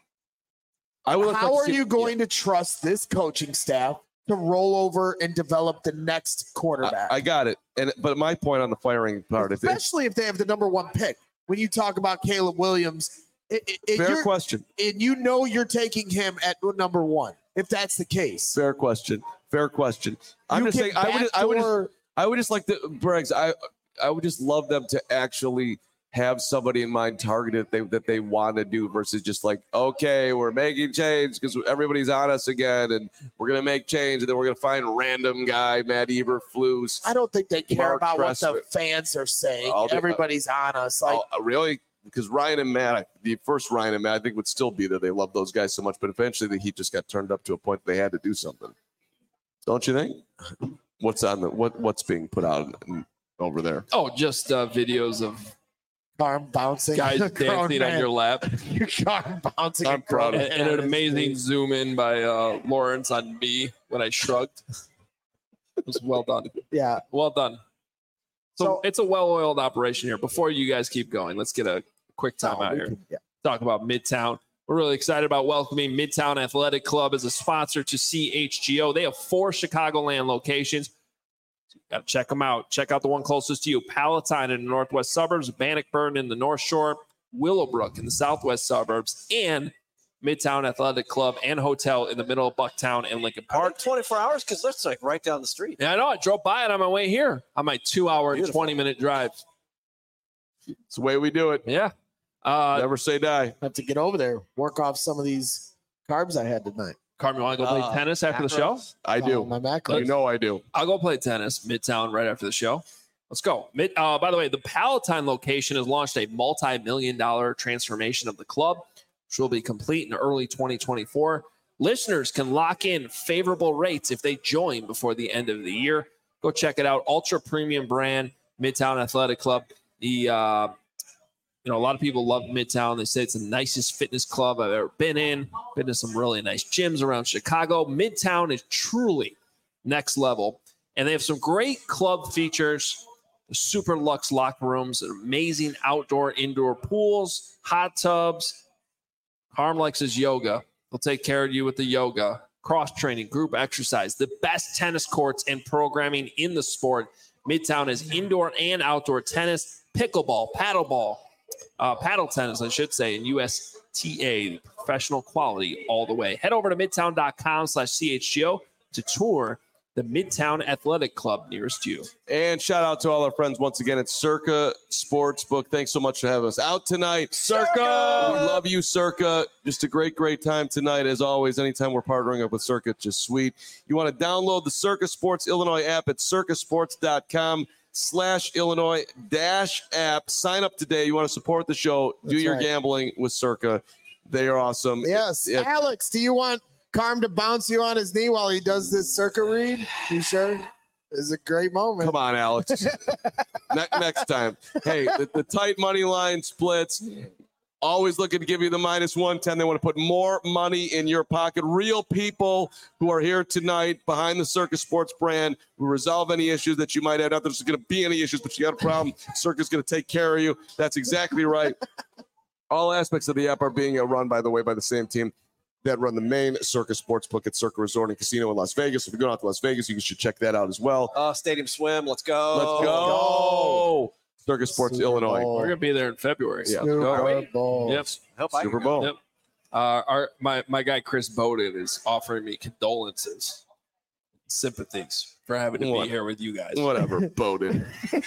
I would how are you going to trust this coaching staff to roll over and develop the next quarterback? I, I got it. And but my point on the firing part, if it, Especially if they have the number one pick. When you talk about Caleb Williams, it, it, it- fair you're- question, and you know you're taking him at number one. If that's the case, fair question, fair question. I'm You just can saying, I would, I would, just, backdoor- I would just like the Briggs. I, I would just love them to actually have somebody in mind targeted that they, that they want to do versus just like, okay, we're making change because everybody's on us again, and we're gonna make change, and then we're gonna find a random guy, Matt Eberflus. I don't think they care Mark about what the Trestman. fans are saying. I'll do- Everybody's on us. Like, Oh, really? Because Ryan and Matt, the first Ryan and Matt, I think would still be there. They love those guys so much, but eventually the Heat just got turned up to a point that they had to do something. Don't you think? What's on the what? What's being put out in- over there? Oh, just uh, videos of arm bouncing, guys Grown dancing on man. your lap, Your arm bouncing. I'm a grown proud of and, man and on an his amazing knee. zoom in by uh, Lawrence on me when I shrugged. It was well done. Yeah. Well done. So, So- it's a well-oiled operation here. Before you guys keep going, let's get a quick time No, out we here. can- yeah. Talk about Midtown. We're really excited about welcoming Midtown Athletic Club as a sponsor to C H G O. They have four Chicagoland locations. Got to check them out. Check out the one closest to you. Palatine in the northwest suburbs, Bannockburn in the north shore, Willowbrook in the southwest suburbs, and Midtown Athletic Club and Hotel in the middle of Bucktown and Lincoln Park Park. twenty-four hours because that's like right down the street. Yeah, I know. I drove by it on my way here on my two-hour and Beautiful. twenty-minute drive. It's the way we do it. Yeah. Uh, Never say die. Have to get over there, work off some of these carbs I had tonight. Carmen, you want to go play Uh, tennis after the show? macros? I Oh, do. my back. You know I do. I'll go play tennis Midtown right after the show. Let's go. Mid, uh, by the way, the Palatine location has launched a multi-million dollar transformation of the club, which will be complete in early twenty twenty-four. Listeners can lock in favorable rates if they join before the end of the year. Go check it out. Ultra premium brand, Midtown Athletic Club. The uh, you know, a lot of people love Midtown. They say it's the nicest fitness club I've ever been in. Been to some really nice gyms around Chicago. Midtown is truly next level. And they have some great club features, the super luxe locker rooms, amazing outdoor, indoor pools, hot tubs. Harm likes his yoga. They'll take care of you with the yoga, cross training, group exercise, the best tennis courts and programming in the sport. Midtown is indoor and outdoor tennis, pickleball, paddleball, uh, paddle tennis, I should say, and U S T A, professional quality all the way. Head over to midtown.com slash CHGO to tour the Midtown Athletic Club nearest you. And shout out to all our friends once again at Circa Sportsbook. Thanks so much for having us out tonight. Circa! We love you, Circa. Just a great, great time tonight, as always. Anytime we're partnering up with Circa, it's just sweet. You want to download the Circa Sports Illinois app at circasports.com slash Illinois dash app. Sign up today. You want to support the show. Do That's your right. gambling with Circa. They are awesome. Yes. If- Alex, do you want Carm to bounce you on his knee while he does this circuit read? You sure? It's a great moment. Come on, Alex. ne- next time. Hey, the, the tight money line splits. always looking to give you the minus one ten. They want to put more money in your pocket. Real people who are here tonight behind the Circus Sports brand who resolve any issues that you might have. Not that there's going to be any issues, but you got a problem, Circus is going to take care of you. That's exactly right. All aspects of the app are being run, by the way, by the same team that run the main Circus Sportsbook at Circa Resort and Casino in Las Vegas. If you're going out to Las Vegas, you should check that out as well. Uh, Stadium Swim, let's go. Let's go. Circus Sports Super Illinois. Bowl. We're gonna be there in February. Yeah. Super Go. Bowl. Yep. I hope I Super can go. Bowl. Yep. Uh, our my my guy Chris Bowden is offering me condolences, sympathies for having to What? be here with you guys. Whatever, Bowden.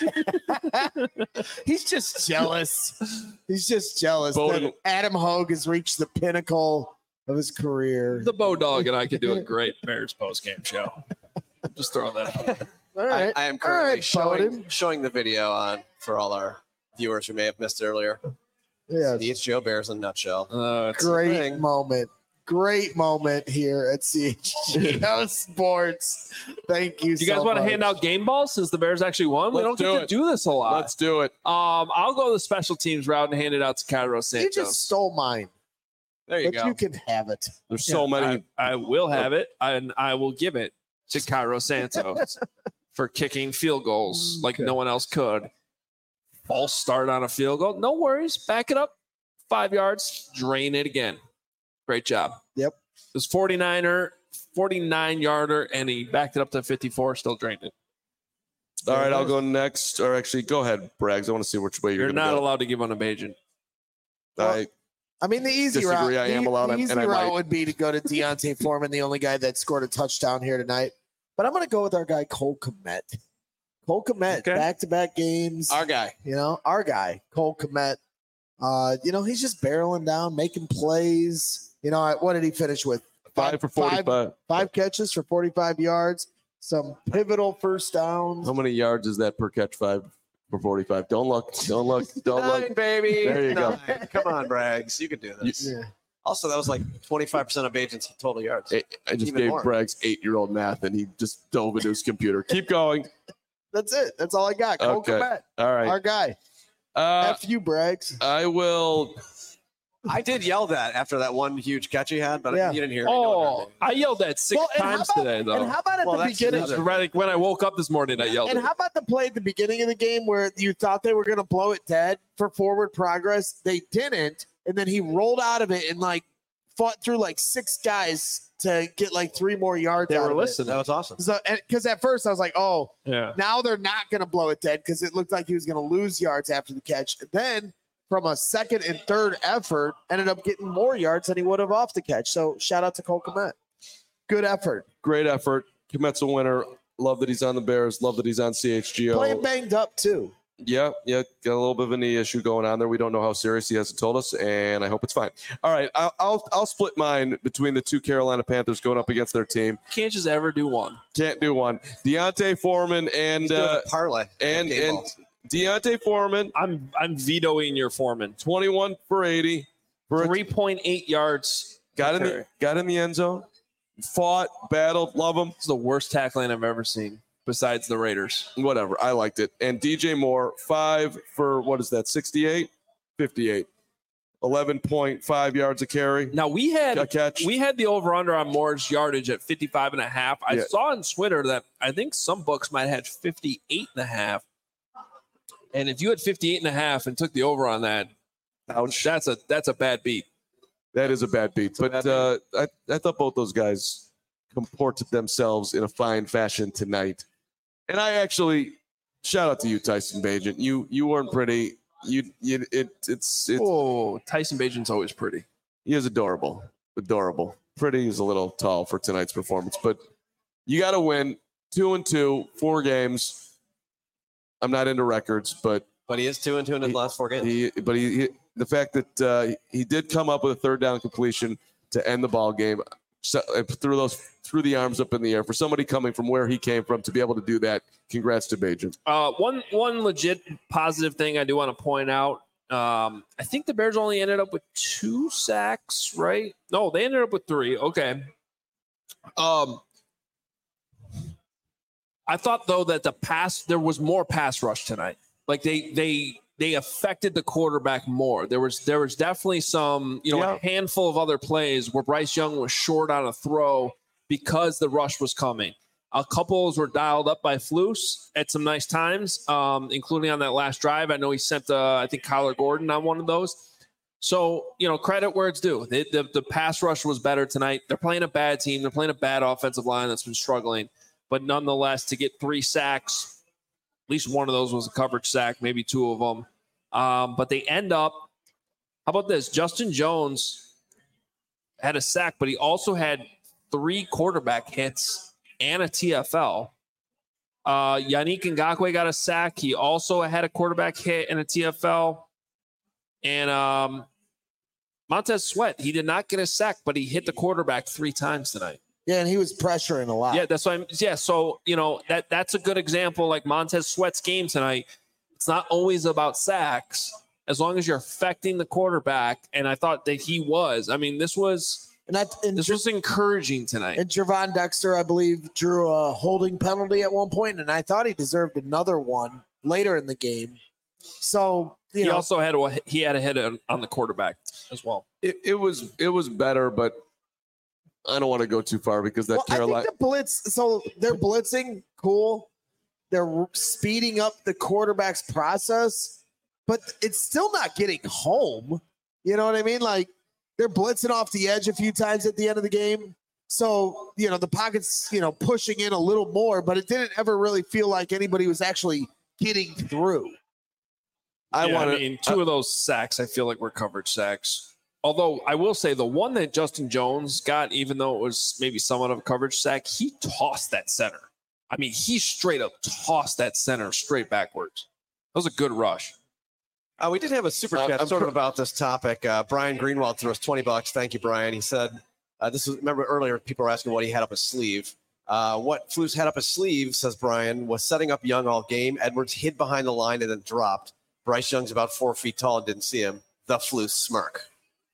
He's just jealous. He's just jealous Bowden- that Adam Hogue has reached the pinnacle of his career. The Bow Dog and I could do a great Bears post game show. Just throwing that out. there. All I, right. I am All currently right, showing, Bowden. showing the video on for all our viewers who may have missed it earlier. Yeah. The It's Joe Bears in a nutshell. Uh, it's- Great thing. moment. Great moment here at C H G O Sports. Thank you. do you guys so want to much. hand out game balls since the Bears actually won? We Let's don't get do to it. do this a lot. Let's do it. Um, I'll go the special teams route and hand it out to Cairo You Santos. just stole mine, There you but go. you can have it. There's so many. I, I will have it, and I will give it to Cairo Santos for kicking field goals like no one else could. False start on a field goal. No worries. Back it up. Five yards. Drain it again. Great job. Yep. It was forty-niner, forty-nine yarder, and he backed it up to fifty-four, still drained it. All right, I'll go next. Or actually, go ahead, Braggs. I want to see which way you're, You're going to not go. allowed to give on a Bajan. I, I mean, the easy Disagree, route. I am the, allowed, the and easy I route might. would be to go to Deontay Foreman, the only guy that scored a touchdown here tonight. But I'm going to go with our guy Cole Kmet. Cole Kmet, Okay. back-to-back games. Our guy. You know, our guy, Cole Kmet. Uh, you know, he's just barreling down, making plays. You know, what did he finish with? five for Five, forty-five. five catches for forty-five yards, some pivotal first downs. How many yards is that per catch? Five for forty-five. Don't look. Don't look. Don't Nine, look. baby. There you go. Nine. Come on, Braggs. You can do this. Yeah. Also, that was like twenty-five percent of agents' total yards. I I just Even gave more. Braggs eight-year-old math, and he just dove into his computer. Keep going. That's it. That's all I got. Cole Okay. Kmet, All right. our guy. Uh, F you, Braggs. I will. I did yell that after that one huge catch he had, but Yeah. you didn't hear it. No one Oh, heard me. I yelled that six Well, and how times about- today, though. And how about at Well, the that's beginning? another- Right when I woke up this morning, I yelled And it. how about the play at the beginning of the game where you thought they were going to blow it dead for forward progress? They didn't. And then he rolled out of it and like fought through like six guys to get like three more yards. They out were of it. listening. That was awesome. So, because at first I was like, oh, Yeah. now they're not going to blow it dead because it looked like he was going to lose yards after the catch. Then from a second and third effort, ended up getting more yards than he would have off the catch. So shout out to Cole Kmet. Good effort. Great effort. Komet's a winner. Love that he's on the Bears. Love that he's on C H G O. Playing banged up too. Yeah, yeah, got a little bit of a knee issue going on there. We don't know how serious he hasn't told us, and I hope it's fine. All right, I'll I'll, I'll split mine between the two Carolina Panthers going up against their team. Can't just ever do one. Can't do one. Deontay Foreman and He's doing uh, a parlay. and Game and balls. Deontay Foreman, I'm I'm vetoing your Foreman. twenty-one for eighty, for a- Three point eight yards. got in Okay. the got in the end zone, fought, battled, love him. It's the worst tackling I've ever seen, besides the Raiders. Whatever, I liked it. And D J Moore, five for what is that? sixty-eight, fifty-eight, eleven point five yards a carry, Now we had a catch. we had the over under on Moore's yardage at fifty-five and a half. I Yeah. saw on Twitter that I think some books might have had fifty-eight and a half. And if you had fifty-eight and a half and took the over on that, Ouch. that's a that's a bad beat. That is a bad beat. a But bad uh, I, I thought both those guys comported themselves in a fine fashion tonight. And I actually shout out to you, Tyson Bagent. You you weren't pretty. You you it it's it's Oh, Tyson Bajan's always pretty. he is adorable. Adorable. Pretty is a little tall for tonight's performance, but you gotta win. Two and two, four games. I'm not into records, but But he is two and two in his He- last four games. he but he, he the fact that uh, he did come up with a third down completion to end the ball game, so, uh, threw those threw the arms up in the air for somebody coming from where he came from to be able to do that. Congrats to Bajan. Uh, one one legit positive thing I do want to point out. Um, I think the Bears only ended up with two sacks, right? No, they ended up with three. Okay. Um, I thought though that the pass there was more pass rush tonight. Like they they they affected the quarterback more. There was there was definitely some, you know, Yeah. a handful of other plays where Bryce Young was short on a throw because the rush was coming. A couple were dialed up by Flus at some nice times, um, including on that last drive. I know he sent, uh, I think, Kyler Gordon on one of those. So, you know, credit where it's due. The, the, the pass rush was better tonight. They're playing a bad team. They're playing a bad offensive line that's been struggling. But nonetheless, to get three sacks, at least one of those was a coverage sack, maybe two of them. Um, but they end up, how about this? Justin Jones had a sack, but he also had three quarterback hits and a T F L. Uh, Yannick Ngakoue got a sack. He also had a quarterback hit and a T F L. And um, Montez Sweat, he did not get a sack, but he hit the quarterback three times tonight. Yeah, and he was pressuring a lot. Yeah, that's why I'm yeah, so you know, that that's a good example. Like Montez Sweat's game tonight, it's not always about sacks, as long as you're affecting the quarterback. And I thought that he was. I mean, this was And that and, this was encouraging tonight. and Javon Dexter, I believe, drew a holding penalty at one point, and I thought he deserved another one later in the game. So you He know, also had a he had a hit on, on the quarterback as well. It, it was it was better, but I don't want to go too far because that well, I Carolina. think the blitz. So they're blitzing, cool. They're speeding up the quarterback's process, but it's still not getting home. You know what I mean? Like they're blitzing off the edge a few times at the end of the game. So, you know, the pocket's, you know, pushing in a little more, but it didn't ever really feel like anybody was actually getting through. I Yeah, want I to. mean, two of those sacks I feel like were coverage sacks. Although I will say the one that Justin Jones got, even though it was maybe somewhat of a coverage sack, he tossed that center. I mean, he straight up tossed that center straight backwards. That was a good rush. Uh, we did have a super Uh, chat I'm sort of pro- about this topic. Uh, Brian Greenwald threw us twenty bucks. Thank you, Brian. He said, uh, this was, remember earlier, people were asking what he had up his sleeve. Uh, what Flus had up his sleeve, says Brian, was setting up Young all game. Edwards hid behind the line and then dropped. Bryce Young's about four feet tall and didn't see him. The Flus smirk.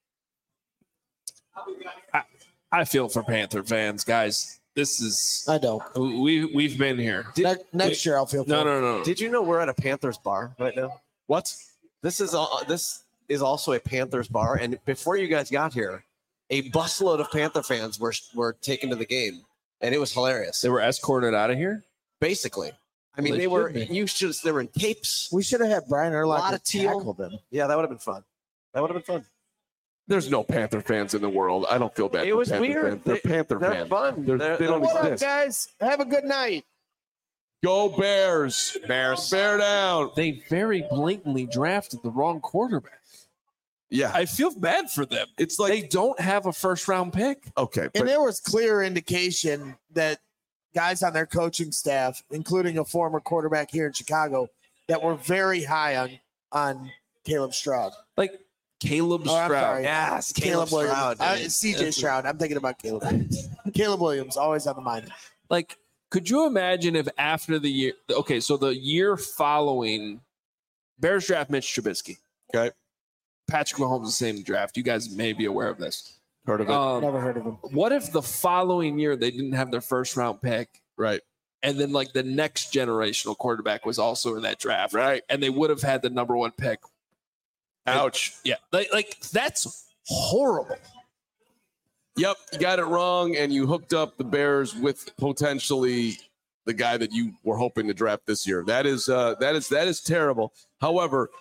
I feel for Panther fans, guys. This is I don't. we we've been here. Ne- next year, I'll feel No, for no, no. no. Did you know we're at a Panthers bar right now? What? This is all, this is also a Panthers bar, and before you guys got here, a busload of Panther fans were were taken to the game, and it was hilarious. They were escorted out of here. Basically, I mean, They they were should be. you should they were in capes. We should have had Brian A lot Urlacher of teal. tackle them. Yeah, that would have been fun. That would have been fun. There's no Panther fans in the world. I don't feel bad. It for was Panther weird. Fans. They're They- Panther They're fans. fun. They're, They're- they don't What up, exist. guys? Have a good night. Go Bears. Bears. Bear down. They very blatantly drafted the wrong quarterback. Yeah. I feel bad for them. It's like They don't have a first round pick. okay, And but there was clear indication that guys on their coaching staff, including a former quarterback here in Chicago, that were very high on on Caleb Stroud. Like Caleb Oh, I'm Stroud. sorry. Yes, Caleb, Williams. Stroud, Uh, dude. C J Stroud. I'm thinking about Caleb Williams. Caleb Williams, always on the mind. Like, could you imagine if after the year, okay, so the year following, Bears draft Mitch Trubisky. Okay. Patrick Mahomes the same draft. You guys may be aware of this. heard of it. Um, Never heard of him. what if the following year they didn't have their first round pick, right. and then like the next generational quarterback was also in that draft, Right. and they would have had the number one pick? Ouch. Yeah, like, like that's horrible. Yep, you got it wrong, and you hooked up the Bears with potentially the guy that you were hoping to draft this year. That is uh, that is that is terrible. However,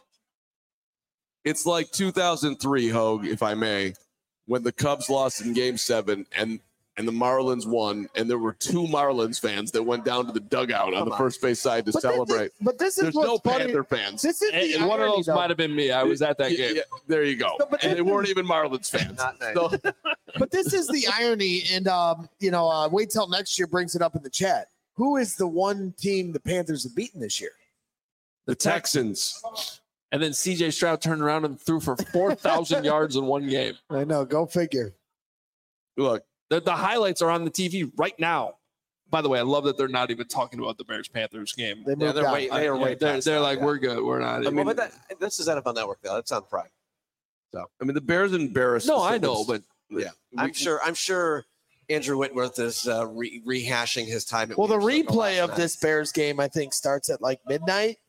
it's like two thousand three, Hogue, if I may, when the Cubs lost in Game Seven and and the Marlins won, and there were two Marlins fans that went down to the dugout on Come the on. first base side to But this is- celebrate. But this is There's what's no funny. Panther fans. This is And, the and one of irony, those though. might have been me. I was at that Yeah, game. yeah, there you go. No, but and this they is- weren't even Marlins fans. Not nice. So, But this is the irony, and um, you know, uh, wait till next year brings it up in the chat. Who is the one team the Panthers have beaten this year? the Texans. And then C J Stroud turned around and threw for four thousand yards in one game. I know. Go figure. Look, The, the highlights are on the T V right now. By the way, I love that they're not even talking about the Bears Panthers game. They Yeah, moved they're on. waiting. They are Yeah, way they're past they're that, like, yeah. we're good. We're not. I even- mean, but that, this is N F L Network though. That's on Prime. I mean, the Bears embarrassed. no, the I know, Saints. but Yeah, I'm sure. I'm sure Andrew Whitworth is uh, re- rehashing his time. At Well, the Williams Circle replay last of night. this Bears game, I think, starts at like midnight.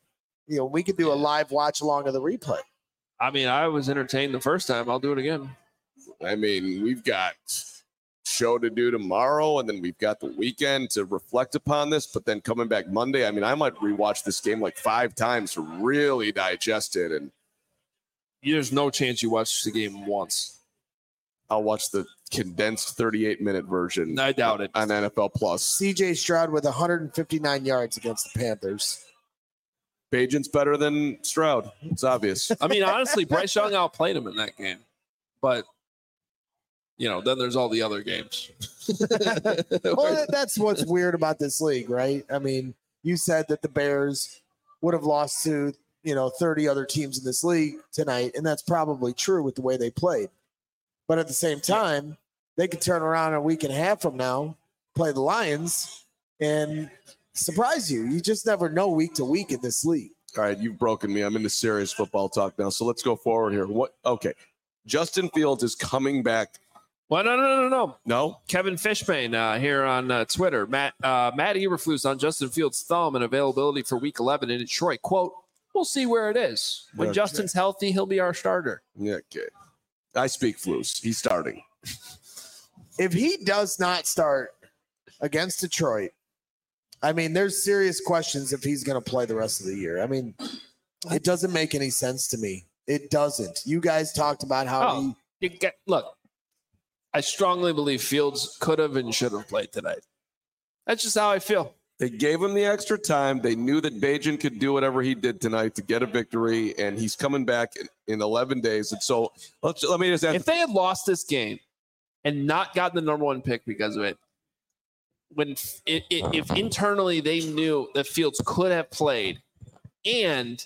you know, we could do a live watch along of the replay. I mean, I was entertained the first time. I'll do it again. I mean, we've got show to do tomorrow, and then we've got the weekend to reflect upon this. But then coming back Monday, I mean, I might rewatch this game like five times to really digest it. And there's no chance you watch the game once. I'll watch the condensed thirty-eight minute version. I doubt it. On N F L Plus. C J Stroud with one hundred fifty-nine yards against the Panthers. Bagent's better than Stroud. It's obvious. I mean, honestly, Bryce Young outplayed him in that game. But, you know, then there's all the other games. Well, that's what's weird about this league, right? I mean, you said that the Bears would have lost to, you know, thirty other teams in this league tonight, and that's probably true with the way they played. But at the same time, they could turn around a week and a half from now, play the Lions, and surprise you. You just never know week to week in this league. All right, you've broken me. I'm into serious football talk now. So let's go forward here. What? Okay. Justin Fields is coming back. Well, no, no, no, no, no. No? Kevin Fishbane uh, here on uh, Twitter. Matt uh, Matt Eberflus on Justin Fields' thumb and availability for week eleven in Detroit. Quote, we'll see where it is. When Okay. Justin's healthy, he'll be our starter. Yeah, okay. I speak Flus. He's starting. If he does not start against Detroit, I mean, there's serious questions if he's going to play the rest of the year. I mean, it doesn't make any sense to me. It doesn't. You guys talked about how Oh, he, you get, look, I strongly believe Fields could have and should have played tonight. That's just how I feel. They gave him the extra time. They knew that Bajan could do whatever he did tonight to get a victory, and he's coming back in, in eleven days. And so let's, let me just ask. If they had lost this game and not gotten the number one pick because of it, when it, it, if internally they knew that Fields could have played and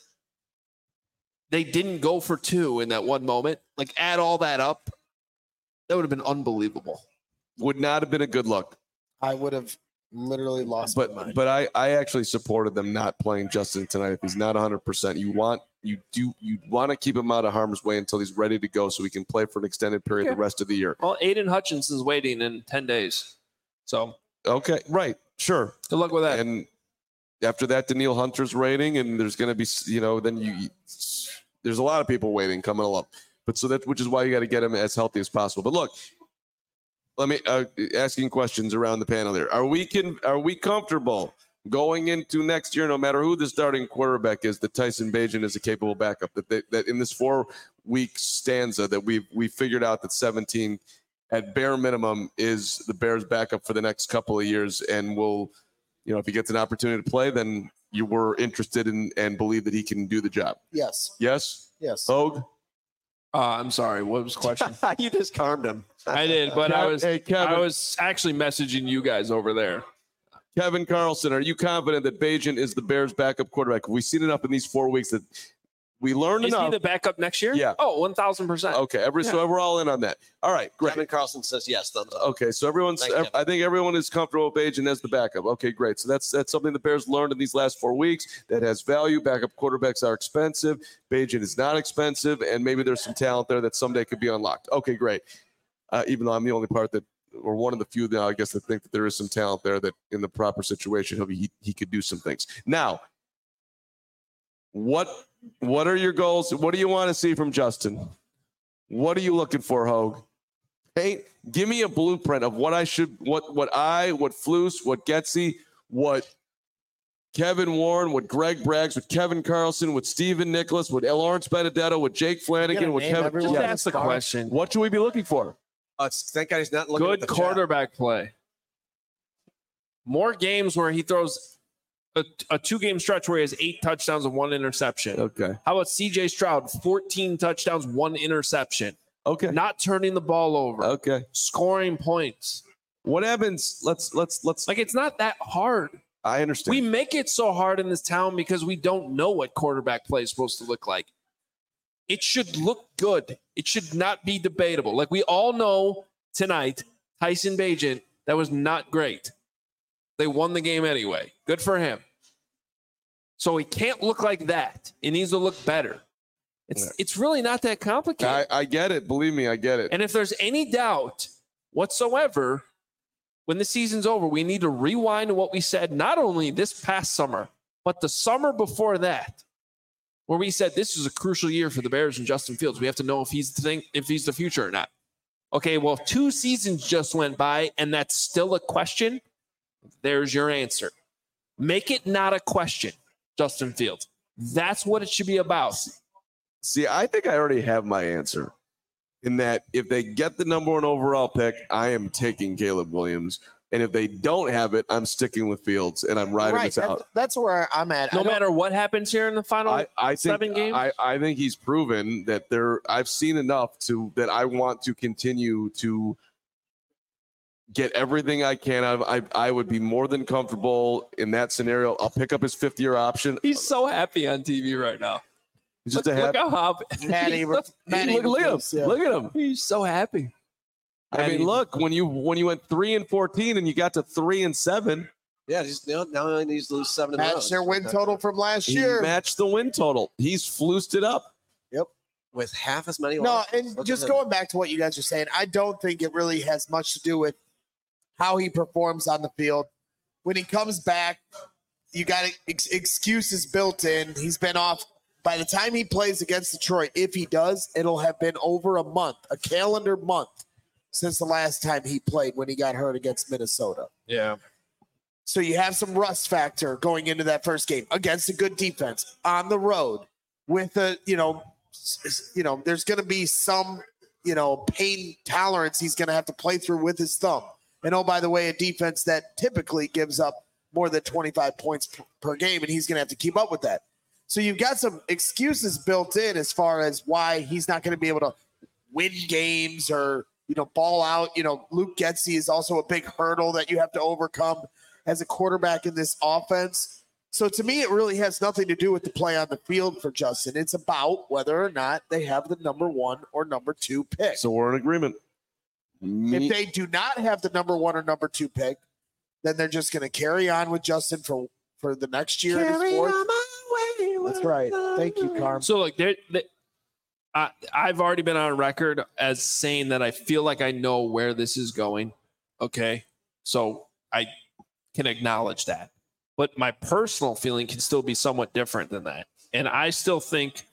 they didn't go for two in that one moment, like add all that up, that would have been unbelievable. would not have been a good look. I would have literally lost my But mind. but I, I actually supported them not playing Justin tonight. If he's not one hundred percent, you want you do you want to keep him out of harm's way until he's ready to go, so he can play for an extended period Yeah. the rest of the year. Well, Aiden Hutchinson's waiting in ten days. So Okay, right, sure. good luck with that. And after that, Daniil Hunter's rating, and there's going to be, you know, then you, there's a lot of people waiting coming along. But so that, which is why you got to get him as healthy as possible. But look, let me uh, asking questions around the panel there. Are we can, are we comfortable going into next year, no matter who the starting quarterback is, that Tyson Bagent is a capable backup? That they, that in this four week stanza that we've we figured out that seventeen at bare minimum is the Bears backup for the next couple of years, and will, you know, if he gets an opportunity to play, then you were interested in and believe that he can do the job. yes, Yes, yes. Hogue. Uh, I'm sorry. What was the question? You just calmed him. I did, but I was Hey, Kevin. I was actually messaging you guys over there. Kevin Carlson, are you confident that Bagent is the Bears' backup quarterback? Have we seen enough in these four weeks that we learned Is enough? he the backup next year? Yeah. Oh, one thousand percent. Okay, every, so we're all in on that. All right, great. Kevin Carlson says yes. Thumbs up. Okay, so everyone's. Thanks, Kevin. I think everyone is comfortable with Bagent as the backup. Okay, great. So that's that's something the Bears learned in these last four weeks that has value. Backup quarterbacks are expensive. Bagent is not expensive, and maybe there's some talent there that someday could be unlocked. Okay, great. Uh, even though I'm the only part that, or one of the few now, I guess, that think that there is some talent there that in the proper situation he'll be, he he could do some things. Now, what what are your goals? What do you want to see from Justin? What are you looking for, Hogue? Hey, give me a blueprint of what I should, what what I, what Flus, what Getsy, what Kevin Warren, what Greg Braggs, what Kevin Carlson, what Steven Nicholas, what Lawrence Benedetto, what Jake Flanagan, what name Kevin. everyone? Just Yeah. ask the question. What should we be looking for? Uh, thank God he's not looking at Good the quarterback play. More games where he throws a, a two-game stretch where he has eight touchdowns and one interception. Okay. How about C J Stroud? fourteen touchdowns, one interception. Okay. Not turning the ball over. Okay. Scoring points. What happens? Let's let's let's. Like, it's not that hard. I understand. We make it so hard in this town because we don't know what quarterback play is supposed to look like. It should look good. It should not be debatable. Like, we all know tonight, Tyson Bagent, that was not great. They won the game anyway. Good for him. So he can't look like that. It needs to look better. It's Yeah. it's really not that complicated. I, I get it. Believe me, I get it. And if there's any doubt whatsoever, when the season's over, we need to rewind to what we said not only this past summer, but the summer before that. where we said this is a crucial year for the Bears and Justin Fields. We have to know if he's the thing, if he's the future or not. Okay, well, two seasons just went by, and that's still a question. There's your answer. Make it not a question, Justin Fields. That's what it should be about. See, I think I already have my answer. In that, if they get the number one overall pick, I am taking Caleb Williams. And if they don't have it, I'm sticking with Fields, and I'm riding Right, this that- out. that's where I'm at. I No don't- matter what happens here in the final I, I think seven games? I, I think he's proven that there. I've seen enough to that I want to continue to get everything I can out of. I I would be more than comfortable in that scenario. I'll pick up his fifth year option. He's so happy on T V right now. He's just look, a look happy. how happy. Matt Abram- Matt Look, look at him. Abrams, yeah. Look at him. He's so happy. I mean, look, when you when you went three and fourteen and you got to three and seven, Yeah, he's now, now he only needs to lose seven in a row. Match their win total from last he year. matched the win total. He's flused it up. with half as many. No, losses. and Look just at him. going back to what you guys are saying, I don't think it really has much to do with how he performs on the field. When he comes back, you got ex- excuses built in. He's been off. By the time he plays against Detroit, if he does, it'll have been over a month, a calendar month, since the last time he played when he got hurt against Minnesota. Yeah. So you have some rust factor going into that first game against a good defense on the road with a, you know, s- you know, there's going to be some, you know, pain tolerance he's going to have to play through with his thumb. And oh, by the way, a defense that typically gives up more than twenty-five points p- per game, and he's going to have to keep up with that. So you've got some excuses built in as far as why he's not going to be able to win games or, you know, ball out. You know, Luke Getsy is also a big hurdle that you have to overcome as a quarterback in this offense. So to me, it really has nothing to do with the play on the field for Justin. It's about whether or not they have the number one or number two pick. So we're in agreement. Me- If they do not have the number one or number two pick, then they're just going to carry on with Justin for, for the next year. in his fourth. That's right. Thank you, Carm. So look, there, there, I, I've already been on record as saying that I feel like I know where this is going. Okay, so I can acknowledge that, but my personal feeling can still be somewhat different than that, and I still think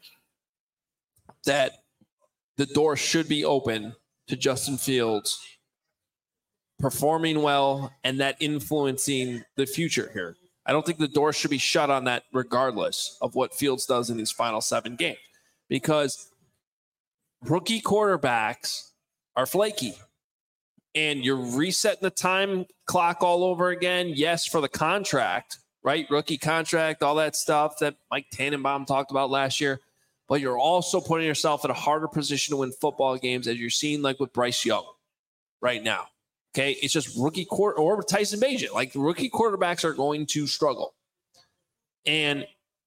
that the door should be open to Justin Fields performing well and that influencing the future here. I don't think the door should be shut on that regardless of what Fields does in these final seven games, because rookie quarterbacks are flaky and you're resetting the time clock all over again. Yes, for the contract, right? Rookie contract, all that stuff that Mike Tannenbaum talked about last year, but you're also putting yourself in a harder position to win football games, as you're seeing like with Bryce Young right now. Okay, it's just rookie quarter or Tyson Bagent. Like rookie quarterbacks are going to struggle. And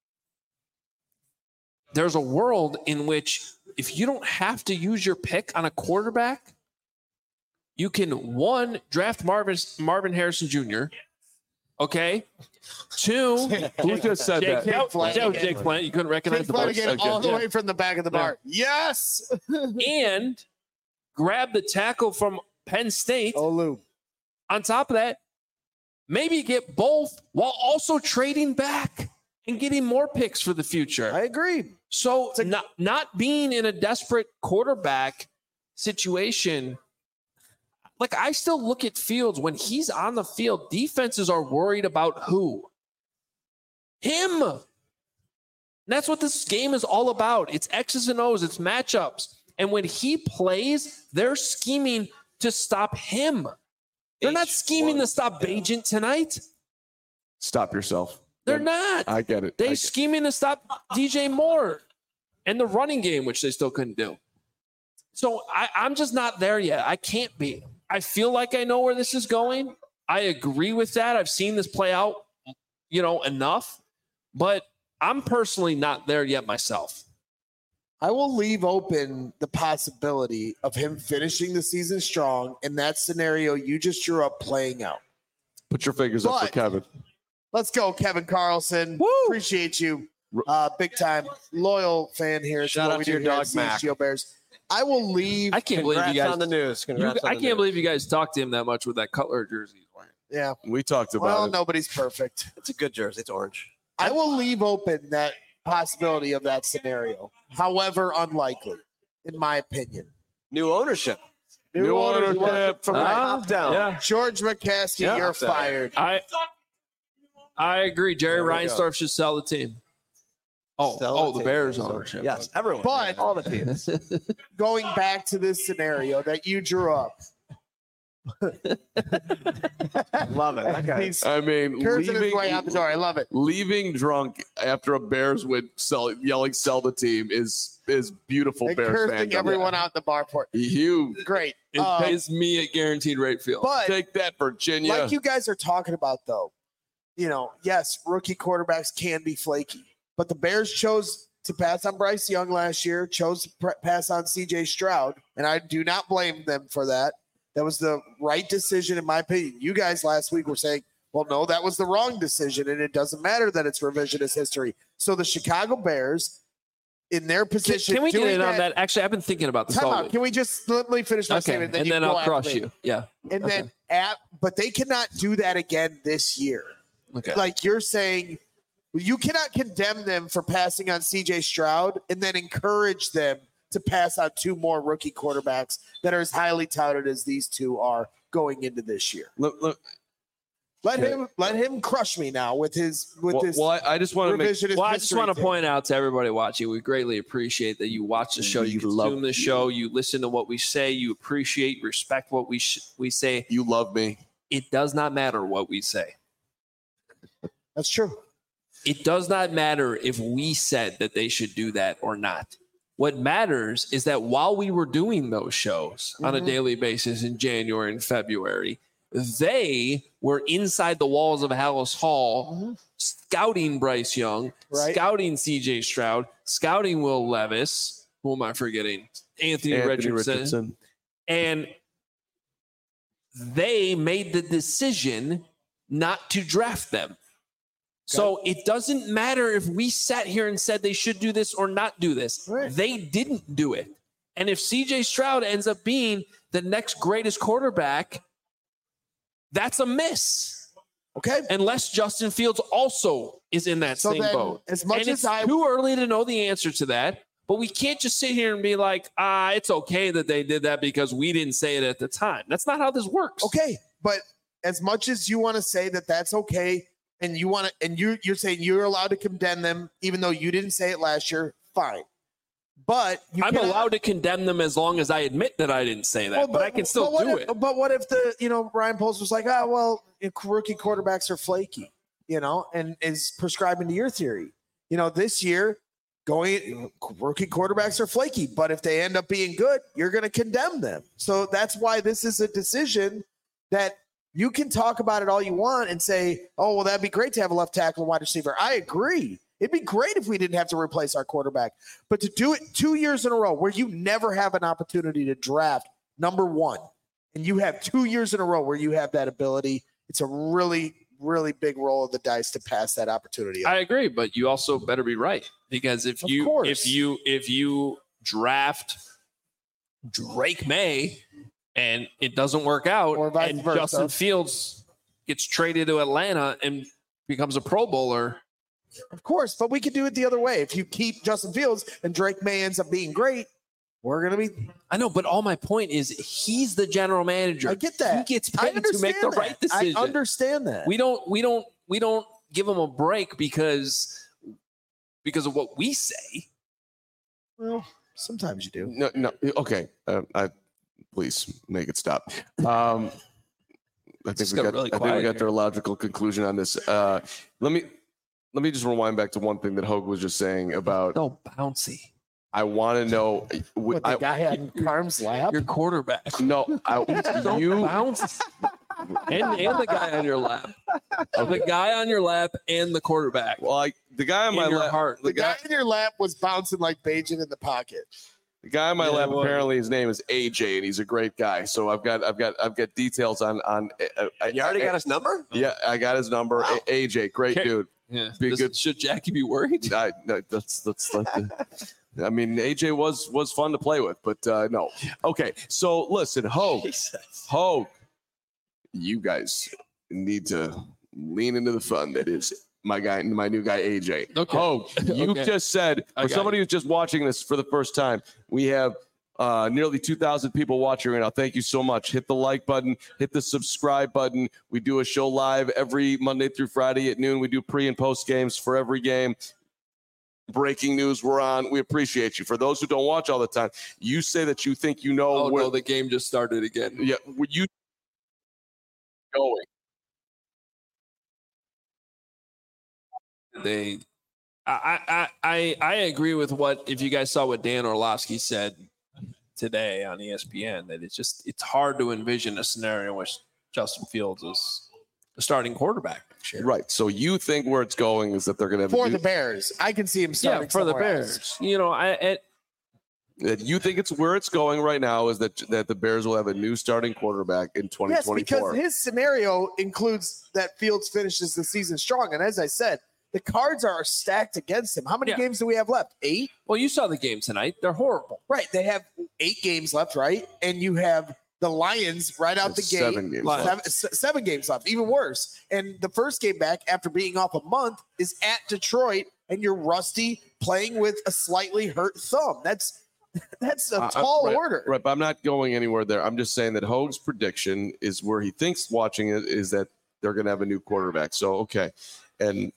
there's a world in which if you don't have to use your pick on a quarterback, you can, one, draft Marvin Marvin Harrison Junior Okay. Two, Who just said Jake, that? nope, Flanagan. that was Jake Flanagan. You couldn't recognize Jake the voice. Flanagan Okay. all the Yeah. way from the back of the bar. Yes. And grab the tackle from Penn State. Olu. On top of that, maybe get both while also trading back and getting more picks for the future. I agree. So not not being in a desperate quarterback situation, like I still look at Fields when he's on the field, defenses are worried about who? Him. And that's what this game is all about. It's X's and O's, it's matchups. And when he plays, they're scheming to stop him. They're not scheming to stop Bagent tonight. Stop yourself. They're Yeah, not. I get it. They I get- scheming to stop D J Moore and the running game, which they still couldn't do. So I, I'm just not there yet. I can't be. I feel like I know where this is going. I agree with that. I've seen this play out, you know, enough, but I'm personally not there yet myself. I will leave open the possibility of him finishing the season strong in that scenario you just drew up playing out. Put your fingers up for But- Kevin. Let's go, Kevin Carlson. Woo! Appreciate you. Uh, big time loyal fan here. It's Shout what out we to do your here at dog, C H Mac. G O Bears. I will leave. I can't believe Congrats you guys. on the news. you- Congrats on I the can't news. believe you guys talked to him that much with that Cutler jersey he's wearing. Yeah. We talked about Well, it. nobody's perfect. It's a good jersey. It's orange. I will leave open that possibility of that scenario. However, unlikely, in my opinion. New ownership. New ownership. From the Ah, top down. Yeah, George McCaskey, Yeah. you're fired. I I agree. Jerry There we go. Reinsdorf should sell the team. Oh, Sell oh, the the team. Bears ownership. Yes, everyone. But- all the teams. Going back to this scenario that you drew up. Love it. Okay. He's I mean, cursing his leaving, way out the door. I love it. leaving drunk after a Bears win, sell, yelling "sell the team" is is beautiful. And Bears cursing fandom. everyone out in the bar for it. You Great. It Uh, pays me at guaranteed rate field. but take that, Virginia. like you guys are talking about, though, you know, yes, rookie quarterbacks can be flaky, but the Bears chose to pass on Bryce Young last year, chose to pr- pass on C J Stroud, and I do not blame them for that. That was the right decision, in my opinion. You guys last week were saying, well, no, that was the wrong decision, and it doesn't matter that it's revisionist history. So the Chicago Bears, in their can, position, can we get doing in on that? Actually, I've been thinking about this Time all out. week. Can we just let me finish my Okay, statement? and you then go I'll after crush me. you. Yeah. And Okay. then at, but they cannot do that again this year. Okay. Like you're saying, you cannot condemn them for passing on C J Stroud and then encourage them to pass on two more rookie quarterbacks that are as highly touted as these two are going into this year. look, look, Let Yeah. him let him crush me now with his with well, his well, I, I just want to make revisionist Well, I just history want to thing. point out to everybody watching, we greatly appreciate that you watch the show, you We love consume the you. show, you listen to what we say, you appreciate, respect what we sh- we say. you love me. It does not matter what we say. That's true. It does not matter if we said that they should do that or not. What matters is that while we were doing those shows on a Mhm. daily basis in January and February, they were inside the walls of Hallis Hall Mhm. scouting Bryce Young, Right. scouting C J Stroud, scouting Will Levis. Who am I forgetting? Anthony, Anthony Richardson. Richardson. And they made the decision not to draft them. So it doesn't matter if we sat here and said they should do this or not do this. Right. They didn't do it. And if C J Stroud ends up being the next greatest quarterback, that's a miss. Okay. Unless Justin Fields also is in that So same then, boat. as much And as it's I too early to know the answer to that. But we can't just sit here and be like, ah, it's okay that they did that because we didn't say it at the time. That's not how this works. Okay, but as much as you want to say that that's okay, and you want to, and you you're saying you're allowed to condemn them, even though you didn't say it last year, fine. But you I'm cannot- allowed to condemn them as long as I admit that I didn't say that, Well, but, I can still but what do if, it. But what if the you know Ryan Poles was like, ah, well, rookie quarterbacks are flaky, you know, and is prescribing to your theory. You know, this year, going rookie quarterbacks are flaky, but if they end up being good, you're going to condemn them. So that's why this is a decision that you can talk about it all you want and say, oh, well, that'd be great to have a left tackle and wide receiver. I agree. It'd be great if we didn't have to replace our quarterback. But to do it two years in a row where you never have an opportunity to draft number one, and you have two years in a row where you have that ability, it's a really, really big roll of the dice to pass that opportunity up. I agree, but you also better be right because if Of you course. if you if you draft Drake May and it doesn't work out, Or vice and versa. Justin Fields gets traded to Atlanta and becomes a Pro Bowler, Of course, but we could do it the other way. If you keep Justin Fields and Drake May ends up being great, we're going to be. I know, but all my point is he's the general manager. I get that. He gets I paid to make the understand right that. decision. I understand that. We don't we don't we don't give him a break because because of what we say. well, sometimes you do. No, no. Okay. Uh, I please make it stop. Um, I think just we got got. really I think quiet we got here. to a logical conclusion on this. Uh, let me let me just rewind back to one thing that Hogue was just saying about. So bouncy. I want to know. What, the I, guy on Carm's lap? Your quarterback. no, I, So you. bouncy. And, and the guy on your lap. The guy on your lap and the quarterback. Well, I, the guy on In my your lap. heart. The The guy guy. in your lap was bouncing like Bajan in the pocket. The guy on my Yeah, lap. it was. Apparently, his name is A J, and he's a great guy. So I've got. I've got. I've got details on. On. Uh, I, You already got his number? Yeah, I got his number. Wow. A- AJ, great Okay. dude. Yeah. Be Does- good. Should Jackie be worried? I, no, that's that's like the, I mean, A J was was fun to play with, but uh, no. Okay, so listen, Hogue, Hogue, you guys need to lean into the fun that is my guy, my new guy, A J. Okay. Hogue, you Okay. just said, I for got somebody you. who's just watching this for the first time, we have uh, nearly two thousand people watching right now. Thank you so much. Hit the like button, hit the subscribe button. We do a show live every Monday through Friday at noon. We do pre and post games for every game. Breaking news we're on. We appreciate you. For those who don't watch all the time, you say that you think you know Oh where no, the game just started again. yeah, where you going. They, I, I, I, I agree with what if you guys saw what Dan Orlovsky said today on E S P N that it's just it's hard to envision a scenario in which Justin Fields is the starting quarterback next year. Right. So you think where it's going is that they're going to have For a the new, Bears. I can see him starting Yeah, for the somewhere Bears. else. You know, I it, that you think it's where it's going right now is that that the Bears will have a new starting quarterback in twenty Yes, twenty-four. because his scenario includes that Fields finishes the season strong. And as I said, the cards are stacked against him. How many Yeah. games do we have left? Eight? well, you saw the game tonight. They're horrible. Right. They have eight games left, right? And you have the Lions right out the There's gate. seven games left. Seven, s- seven games left, even worse. And the first game back after being off a month is at Detroit, and you're rusty playing with a slightly hurt thumb. That's that's a Uh, uh, tall right, order. Right, but I'm not going anywhere there. I'm just saying that Hogue's prediction is where he thinks watching it is that they're going to have a new quarterback. So, okay. And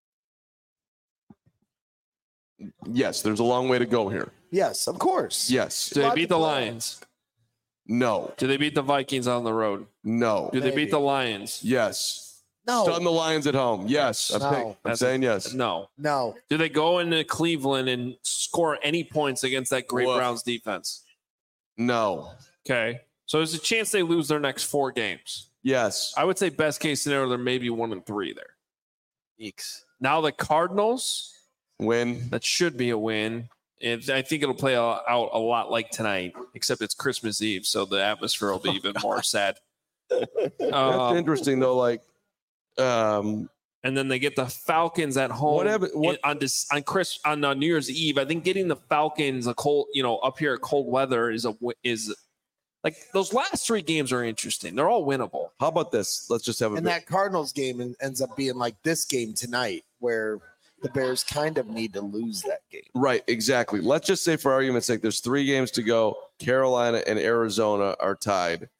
yes, there's a long way to go here. Yes, of course. Yes. Do they Lot beat to the play. Lions? No. Do they beat the Vikings on the road? No. Do they Maybe. beat the Lions? Yes. No. Stun the Lions at home. Yes. I'm, No. saying- I'm That's- saying yes. No. No. Do they go into Cleveland and score any points against that great Woof. Browns defense? No. Okay. So there's a chance they lose their next four games. Yes. I would say best case scenario, they're maybe one and three there. Eeks. Now the Cardinals, Win. that should be a win. And I think it'll play out out a lot like tonight, except it's Christmas Eve, so the atmosphere will be even more sad. That's Um, interesting though. Like, um, and then they get the Falcons at home What happened- what- in- on this on Chris on uh, New Year's Eve. I think getting the Falcons a cold, you know, up here at cold weather is a wi- is like those last three games are interesting. They're all winnable. how about this? Let's just have a And bit. that Cardinals game en- ends up being like this game tonight, where the Bears kind of need to lose that game. Right, exactly. Let's just say, for argument's sake, there's three games to go. Carolina and Arizona are tied.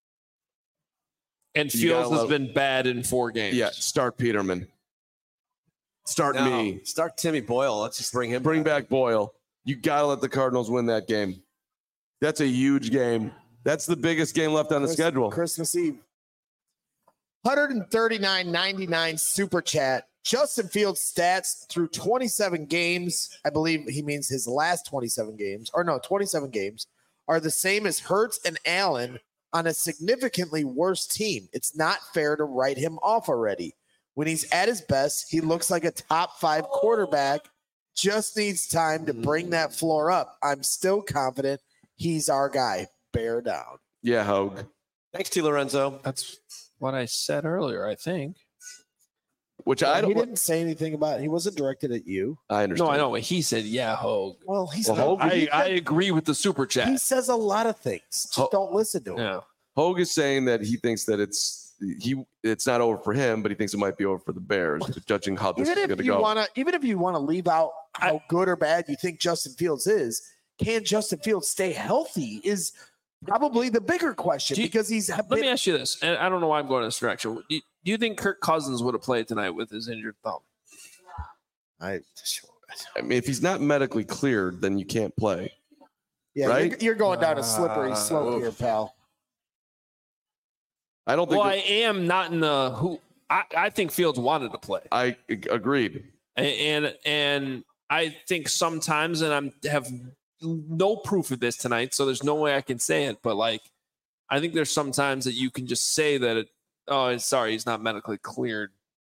And You gotta Fields has love- been bad in four games. Yeah, start Peterman. Start No, me. Start Timmy Boyle. Let's just bring him. Bring back Boyle. You gotta let the Cardinals win that game. That's a huge game. That's the biggest game left on the Christ- schedule. Christmas Eve. one thirty-nine ninety-nine super chat. Justin Fields stats through twenty-seven games. I believe he means his last twenty-seven games, or no, twenty-seven games, are the same as Hurts and Allen on a significantly worse team. It's not fair to write him off already. When he's at his best, he looks like a top five quarterback. Just needs time to bring that floor up. I'm still confident he's our guy. Bear down. Yeah, Hogue. Thanks, T. Lorenzo. That's what I said earlier, I think. Which I he don't. didn't say anything about it. He wasn't directed at you. I understand. No, I know. He said, yeah, Hogue. Well, he's Well, not, Hogue- I, he, I agree with the super he chat. says a lot of things. Just Ho- don't listen to him. Yeah. Hogue is saying that he thinks that it's he. It's not over for him, but he thinks it might be over for the Bears, judging how this Even is if going to you go. want to, even if you want to leave out how I- good or bad you think Justin Fields is, can Justin Fields stay healthy? Is probably the bigger question Do you- because he's Let been, me ask you this, and I don't know why I'm going this direction. Do you, do you think Kirk Cousins would have played tonight with his injured thumb? I, I mean, if he's not medically cleared, then you can't play. yeah, Right? you're, you're going down a slippery Uh, slope here, pal. I don't think. Well, I that- am not in the who. I, I think Fields wanted to play, I agreed. and and I think sometimes, and I'm have no proof of this tonight, so there's no way I can say it. But like, I think there's sometimes that you can just say that it. Oh, sorry, he's not medically cleared.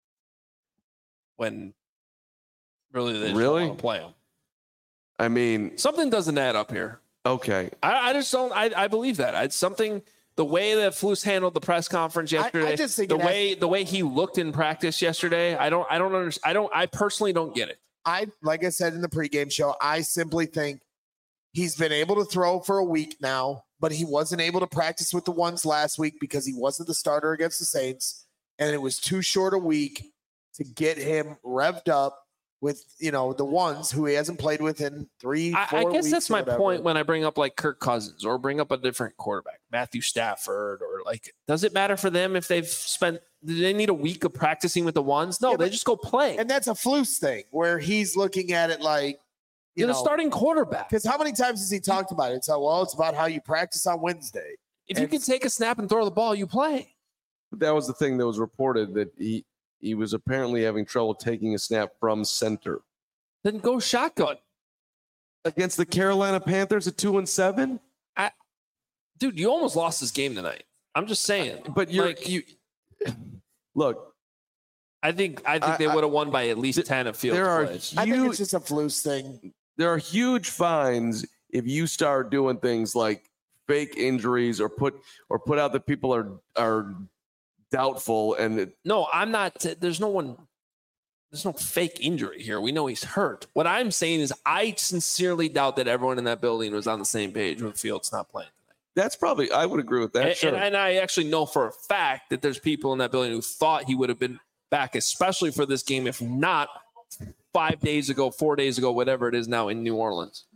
When really they just Really? don't want to play him. I mean, Something doesn't add up here. okay. I, I just don't. I, I believe that. It's something. The way that Flus handled the press conference I- I yesterday, just think the it has- way the way he looked in practice yesterday, I don't. I don't understand. I don't. I personally don't get it. I like I said in the pregame show, I simply think he's been able to throw for a week now, but he wasn't able to practice with the ones last week because he wasn't the starter against the Saints, and it was too short a week to get him revved up with, you know, the ones who he hasn't played with in three, I, four I guess weeks that's or my whatever. point when I bring up like Kirk Cousins or bring up a different quarterback, Matthew Stafford, or like, does it matter for them if they've spent, do they need a week of practicing with the ones? No, Yeah, they but- just go play. And that's a Flus thing where he's looking at it like, you You're know, the starting quarterback. because how many times has he talked about it? So, well, it's about how you practice on Wednesday. If you can take a snap and throw the ball, you play. That was the thing that was reported, that he he was apparently having trouble taking a snap from center Then go shotgun. against the Carolina Panthers at two and seven. Dude, you almost lost this game tonight. I'm just saying. But you're Like, you look. I think I think I- they I- would have won by at least ten of field There are plays. I think huge, it's just a Flus thing. there are huge fines if you start doing things like fake injuries or put or put out that people are are doubtful and it, No, I'm not. There's no one. There's no fake injury here. We know he's hurt. What I'm saying is, I sincerely doubt that everyone in that building was on the same page when Fields not playing tonight. that's probably I would agree with that. And, sure. and, and I actually know for a fact that there's people in that building who thought he would have been back, especially for this game, if not five days ago, four days ago, whatever it is now in New Orleans.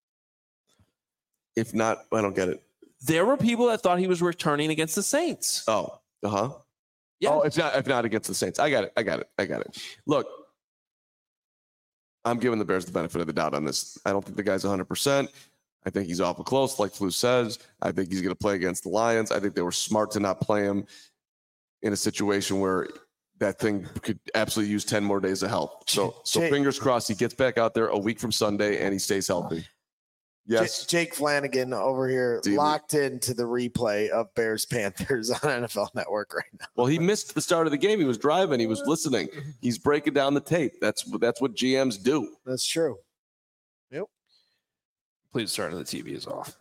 if not, I don't get it. There were people that thought he was returning against the Saints. Oh, uh huh. Yeah. Oh, if not, if not against the Saints, I got it. I got it. I got it. Look, I'm giving the Bears the benefit of the doubt on this. I don't think the guy's one hundred percent. I think he's awful close, like Flu says. I think he's going to play against the Lions. I think they were smart to not play him in a situation where that thing could absolutely use ten more days of health. So, so Jake- fingers crossed he gets back out there a week from Sunday and he stays healthy. Yes. J- Jake Flanagan over here Dude. locked into the replay of Bears Panthers on N F L Network right now. Well, he missed the start of the game. He was driving. He was listening. He's breaking down the tape. That's that's what G Ms do. That's true. Please turn the T V is off.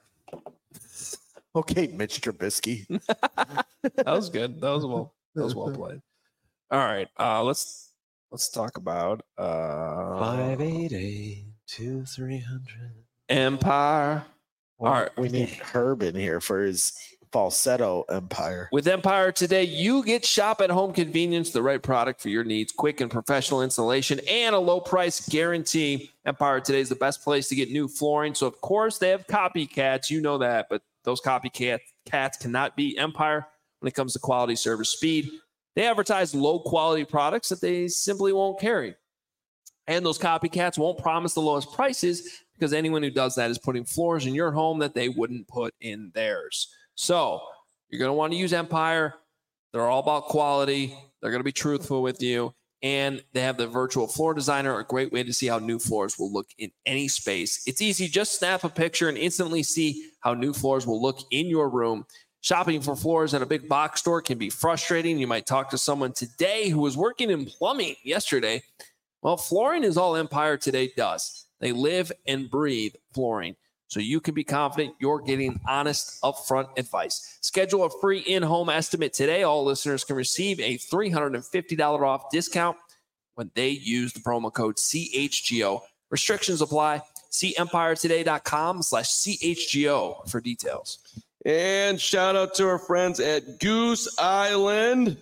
Okay, Mitch Trubisky. That was good. That was well. That was well played. All right. Uh, let's let's talk about uh, Five eight eight two three hundred. Empire. Well, All right. We need Herb in here for his falsetto empire. With Empire today, you get shop at home convenience, the right product for your needs, quick and professional installation, and a low price guarantee. Empire today is the best place to get new flooring. So, of course, they have copycats. You know that, but those copycat cats cannot beat Empire when it comes to quality, service, speed. They advertise low quality products that they simply won't carry. And those copycats won't promise the lowest prices because anyone who does that is putting floors in your home that they wouldn't put in theirs. So you're going to want to use Empire. They're all about quality. They're going to be truthful with you. And they have the virtual floor designer, a great way to see how new floors will look in any space. It's easy. Just snap a picture and instantly see how new floors will look in your room. Shopping for floors at a big box store can be frustrating. You might talk to someone today who was working in plumbing yesterday. Well, flooring is all Empire today does. They live and breathe flooring. So you can be confident you're getting honest, upfront advice. Schedule a free in-home estimate today. All listeners can receive a three hundred fifty dollars off discount when they use the promo code C H G O. Restrictions apply. See empiretoday.com slash CHGO for details. And shout out to our friends at Goose Island.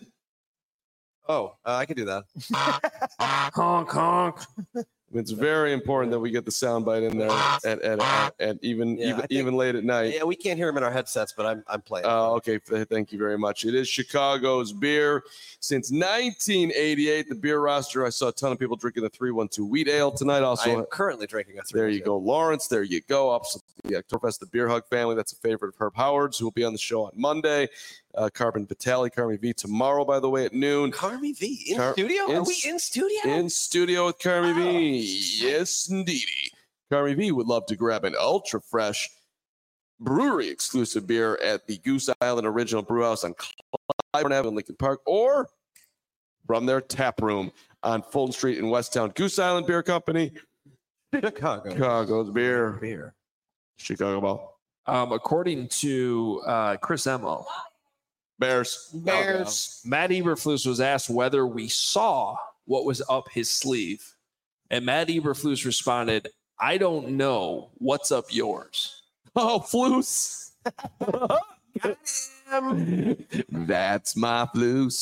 Oh, uh, I can do that. Honk, honk. It's very important that we get the soundbite in there at, at, at, at even Yeah, I even, think- even late at night. Yeah, we can't hear him in our headsets, but I'm I'm playing. Oh, okay. Th- Thank you very much. It is Chicago's beer. Since nineteen eighty-eight, the beer roster, I saw a ton of people drinking the three one two wheat ale tonight. I Also, am currently drinking a three. there you go, Lawrence. There you go. Up the Oktoberfest, the Beer Hug family. That's a favorite of Herb Howard's, who will be on the show on Monday. Uh, Carbon Vitale, Carmi V tomorrow, by the way, at noon. Carmi V in Car- studio. in Are we s- in studio? In studio with Carmi Oh, V. Yes, indeedy. Carmi V would love to grab an ultra fresh brewery exclusive beer at the Goose Island Original Brewhouse on Clybourne Avenue in Lincoln Park, or from their tap room on Fulton Street in Westtown. Goose Island Beer Company, Chicago. Chicago's beer, Beer. Chicago Ball. Um, according to uh, Chris Emmo, Bears. Bears. Matt Eberflus was asked whether we saw what was up his sleeve. And Matt Eberflus responded, I don't know what's up yours. Oh, Floose. That's my Floose.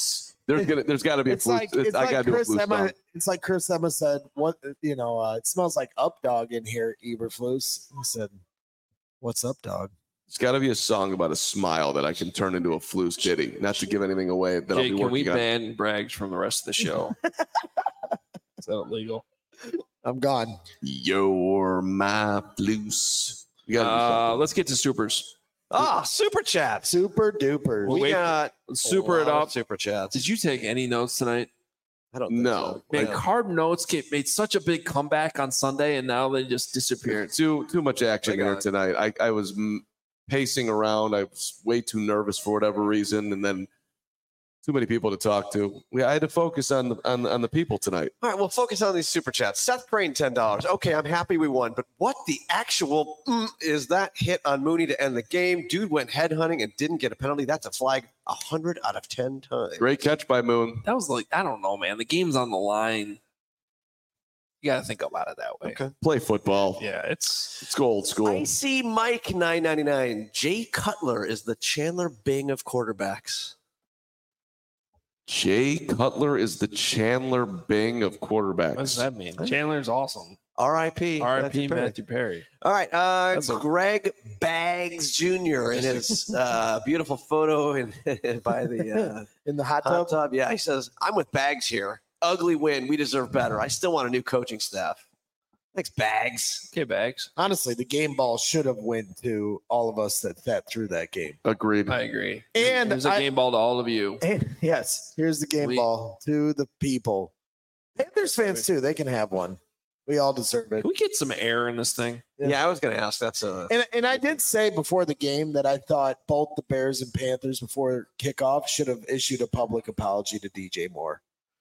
There's gonna, there's got to be a It's flute. like it's I like got to do a Chris flute Emma. song. It's like Chris Emma said. What you know? Uh, it smells like up dog in here, Eberflus. He said, "What's up, dog?" It's got to be a song about a smile that I can turn into a flute ditty. Not to give anything away that Jake, I'll be can working we on. ban Braggs from the rest of the show? Is that illegal? I'm gone. You're my blues. You gotta do Uh, something. let's get to supers. Ah, super chats. Super duper. We wait- got Let's a super it lot of up. Super chats. Did you take any notes tonight? I don't think No. so. Man, No. Carb Notes get, made such a big comeback on Sunday, and now they just disappeared. too too much action Bring here on. tonight. I, I was mm, pacing around. I was way too nervous for whatever reason, and then too many people to talk to. We I had to focus on the on, on the people tonight. All right, we'll focus on these super chats. Seth Crane, ten dollars. Okay, I'm happy we won, but what the actual mm, is that hit on Mooney to end the game? Dude went headhunting and didn't get a penalty. That's a flag one hundred out of ten times. Great catch by Moon. That was like, I don't know, man. The game's on the line. You got to think about it that way. Okay. Play football. Yeah, it's Let's go old school. I see Mike nine ninety-nine. Jay Cutler is the Chandler Bing of quarterbacks. Jay Cutler is the Chandler Bing of quarterbacks. what does that mean? Chandler's awesome. R I P R I P Matthew Perry. Matthew Perry. All right, uh, That's a- Greg Baggs Junior in his uh, beautiful photo in, by the uh, In the hot hot tub. tub. Yeah, he says, "I'm with Baggs here. Ugly win. We deserve better. I still want a new coaching staff." Thanks, Baggs. Okay, Bags. Honestly, the game ball should have went to all of us that sat through that game. Agreed. I agree. And There's a I- game ball to all of you. And yes, here's the game We- ball to the people. Panthers fans too. They can have one. We all deserve it. Can we get some air in this thing? Yeah. Yeah, I was going to ask. That's a And and I did say before the game that I thought both the Bears and Panthers before kickoff should have issued a public apology to D J Moore.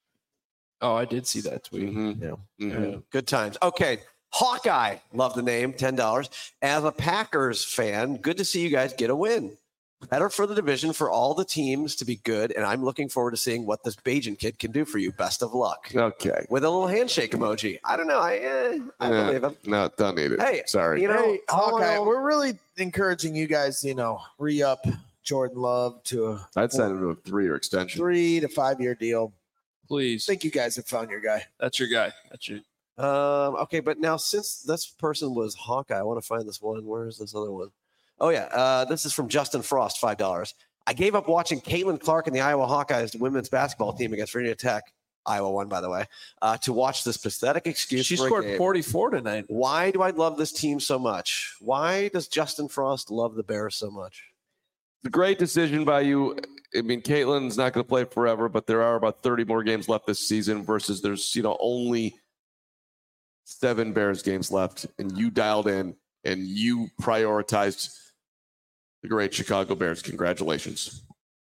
Oh, I did see that tweet. Mhm. Yeah. Mhm. Yeah. good times. Okay. Hawkeye, love the name, ten dollars. As a Packers fan, good to see you guys get a win. Better for the division for all the teams to be good, and I'm looking forward to seeing what this Bajan kid can do for you. Best of luck. Okay. With a little handshake emoji. I don't know. I, eh, I Yeah. believe him. No, don't need it. Hey, Sorry. you know, Hey, all in Hawkeye, all- we're really encouraging you guys, you know, re-up Jordan Love to a I'd sign him to a three-year extension. three to five year deal. I Please. think you guys have found your guy. That's your guy. That's your. Um, okay, but now since this person was Hawkeye, I want to find this one. Where is this other one? Oh yeah, uh, this is from Justin Frost, five dollars. I gave up watching Caitlin Clark and the Iowa Hawkeyes women's basketball team against Virginia Tech. Iowa won, by the way. Uh, to watch this pathetic excuse. She for a scored game. forty-four tonight. Why do I love this team so much? Why does Justin Frost love the Bears so much? It's a great decision by you. I mean, Caitlin's not going to play forever, but there are about thirty more games left this season versus there's, you know, only seven Bears games left. And you dialed in and you prioritized the great Chicago Bears. Congratulations.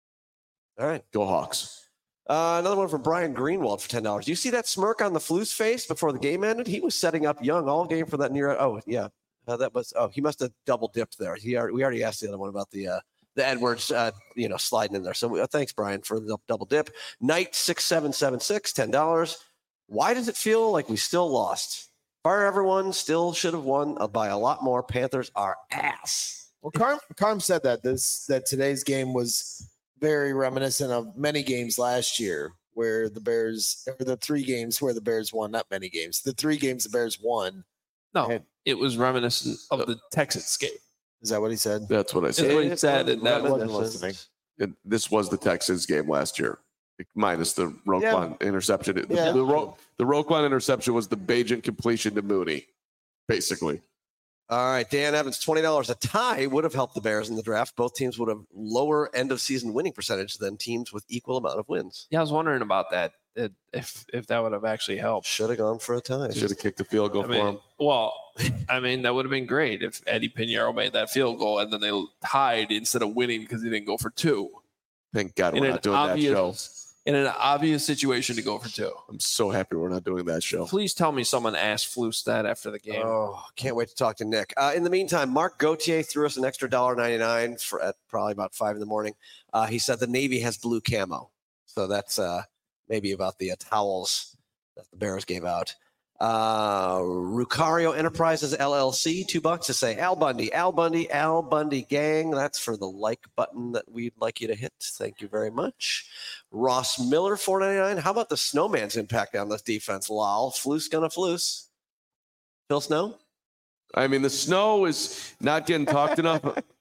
All right. Go Hawks. Uh, another one from Brian Greenwald for ten dollars. You see that smirk on the Flu's face before the game ended? He was setting up Young all game for that near. Oh, yeah. Uh, that was. Oh, he must have double dipped there. He already, we already asked the other one about the uh, the Edwards, uh, you know, sliding in there. So uh, thanks, Brian, for the double dip. Knight six seven seven six, ten dollars. Why does it feel like we still lost? Fire everyone, still should have won uh, by a lot more. Panthers are ass. Well, Carm, Carm said that this that today's game was very reminiscent of many games last year where the Bears, or the three games where the Bears won, not many games, the three games the Bears won. No, And- it was reminiscent of the Texas game. Is that what he said? That's what I That's said. what he said. And that was, wasn't listening. And this was the Texas game last year, minus the Roquan interception. The, Yeah. the, Ro- the Roquan interception was the Bajan completion to Mooney, basically. All right, Dan Evans, twenty dollars. A tie would have helped the Bears in the draft. Both teams would have lower end of season winning percentage than teams with equal amount of wins. yeah, I was wondering about that. it- If if that would have actually helped. Should have gone for a tie. Should have kicked the field goal I for mean, him. well, I mean, that would have been great if Eddie Pinheiro made that field goal and then they tied instead of winning because he didn't go for two. Thank God In we're an not doing that show. obvious, in an obvious situation to go for two. I'm so happy we're not doing that show. Please tell me someone asked Flus that after the game. Oh, can't wait to talk to Nick. Uh, in the meantime, Mark Gauthier threw us an extra one dollar ninety-nine for at probably about five in the morning. Uh, he said the Navy has blue camo. So that's uh, maybe about the uh, towels that the Bears gave out. Uh, Rucario Enterprises L L C, two bucks to say Al Bundy, Al Bundy, Al Bundy gang. That's for the like button that we'd like you to hit. Thank you very much. Ross Miller, four ninety-nine. How about the Snowman's impact on this defense? Lol, Floose gonna Floose. Phil Snow? I mean, the snow is not getting talked enough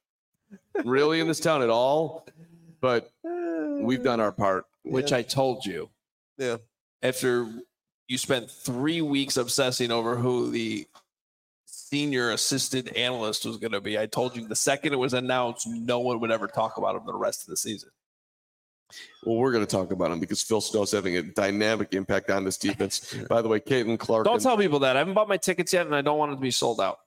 really in this town at all, but we've done our part. Which I told you. Yeah. After you spent three weeks obsessing over who the senior assistant analyst was going to be, I told you the second it was announced, no one would ever talk about him the rest of the season. Well, we're going to talk about him because Phil Snow's having a dynamic impact on this defense. By the way, Caitlin Clark. Don't and, tell people that. I haven't bought my tickets yet, and I don't want it to be sold out.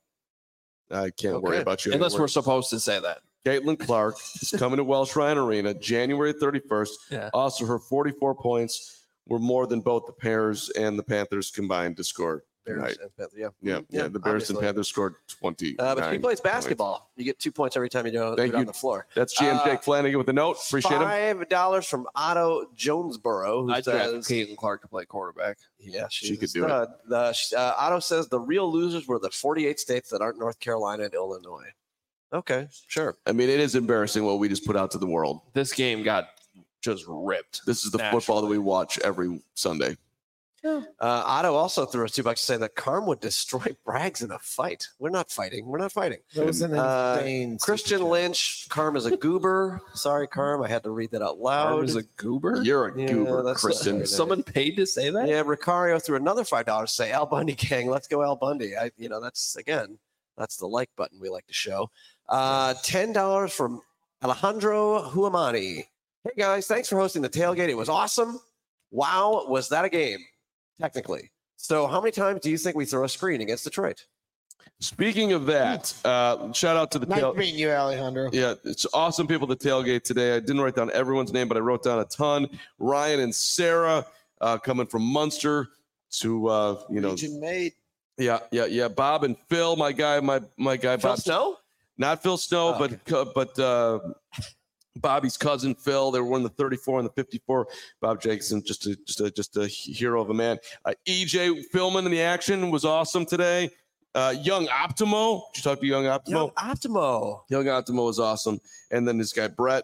I can't Okay. worry about you. Unless anymore. we're supposed to say that. Caitlin Clark is coming to Welsh Ryan Arena January thirty-first. Yeah. Also, her forty-four points were more than both the Bears and the Panthers combined to score. Bears Right. and Panthers, yeah. Yeah, yeah, Yeah, the Bears obviously. and Panthers scored twenty. Uh, but if he plays basketball, you get two points every time you do, do Thank it on you. the floor. That's G M Uh, Jake Flanagan with a note. Appreciate him. Five dollars from Otto Jonesboro, who I draft says, Caitlin Clark to play quarterback. "Yeah, she's She a could do it. stud." The, uh, Otto says the real losers were the forty-eight states that aren't North Carolina and Illinois. Okay, sure. I mean, it is embarrassing what we just put out to the world. This game got just ripped. This is the Naturally. football that we watch every Sunday. Uh, Otto also threw us two bucks to say that Carm would destroy Braggs in a fight. We're not fighting. We're not fighting. That was an Uh, insane. Christian Lynch, Carm is a goober. Sorry, Carm. I had to read that out loud. Carm is a goober? You're a Yeah, goober, that's- Kristen. Someone paid to say that? Yeah, Ricario threw another five dollars to say Al Bundy gang. Let's go Al Bundy. I, you know, that's again, that's the like button we like to show. Uh, ten dollars from Alejandro Huamani. Hey guys, thanks for hosting the tailgate. It was awesome. Wow, was that a game? Technically. So, how many times do you think we throw a screen against Detroit? Speaking of that, uh, shout out to the Nice tail. meeting you, Alejandro. Yeah, it's awesome people at the tailgate today. I didn't write down everyone's name, but I wrote down a ton. Ryan and Sarah uh, coming from Munster to uh, you know, Region made. yeah, yeah, yeah. Bob and Phil, my guy, my my guy, Phil Bob Snow? Not Phil Snow, Oh, but uh, but uh, Bobby's cousin Phil. They were one of the thirty-four and the fifty-four. Bob Jacobson, just a just a just a hero of a man. Uh, E J Philman in the action was awesome today. Uh, Young Optimo, did you talk to Young Optimo? Young Optimo. Young Optimo was awesome, and then this guy Brett.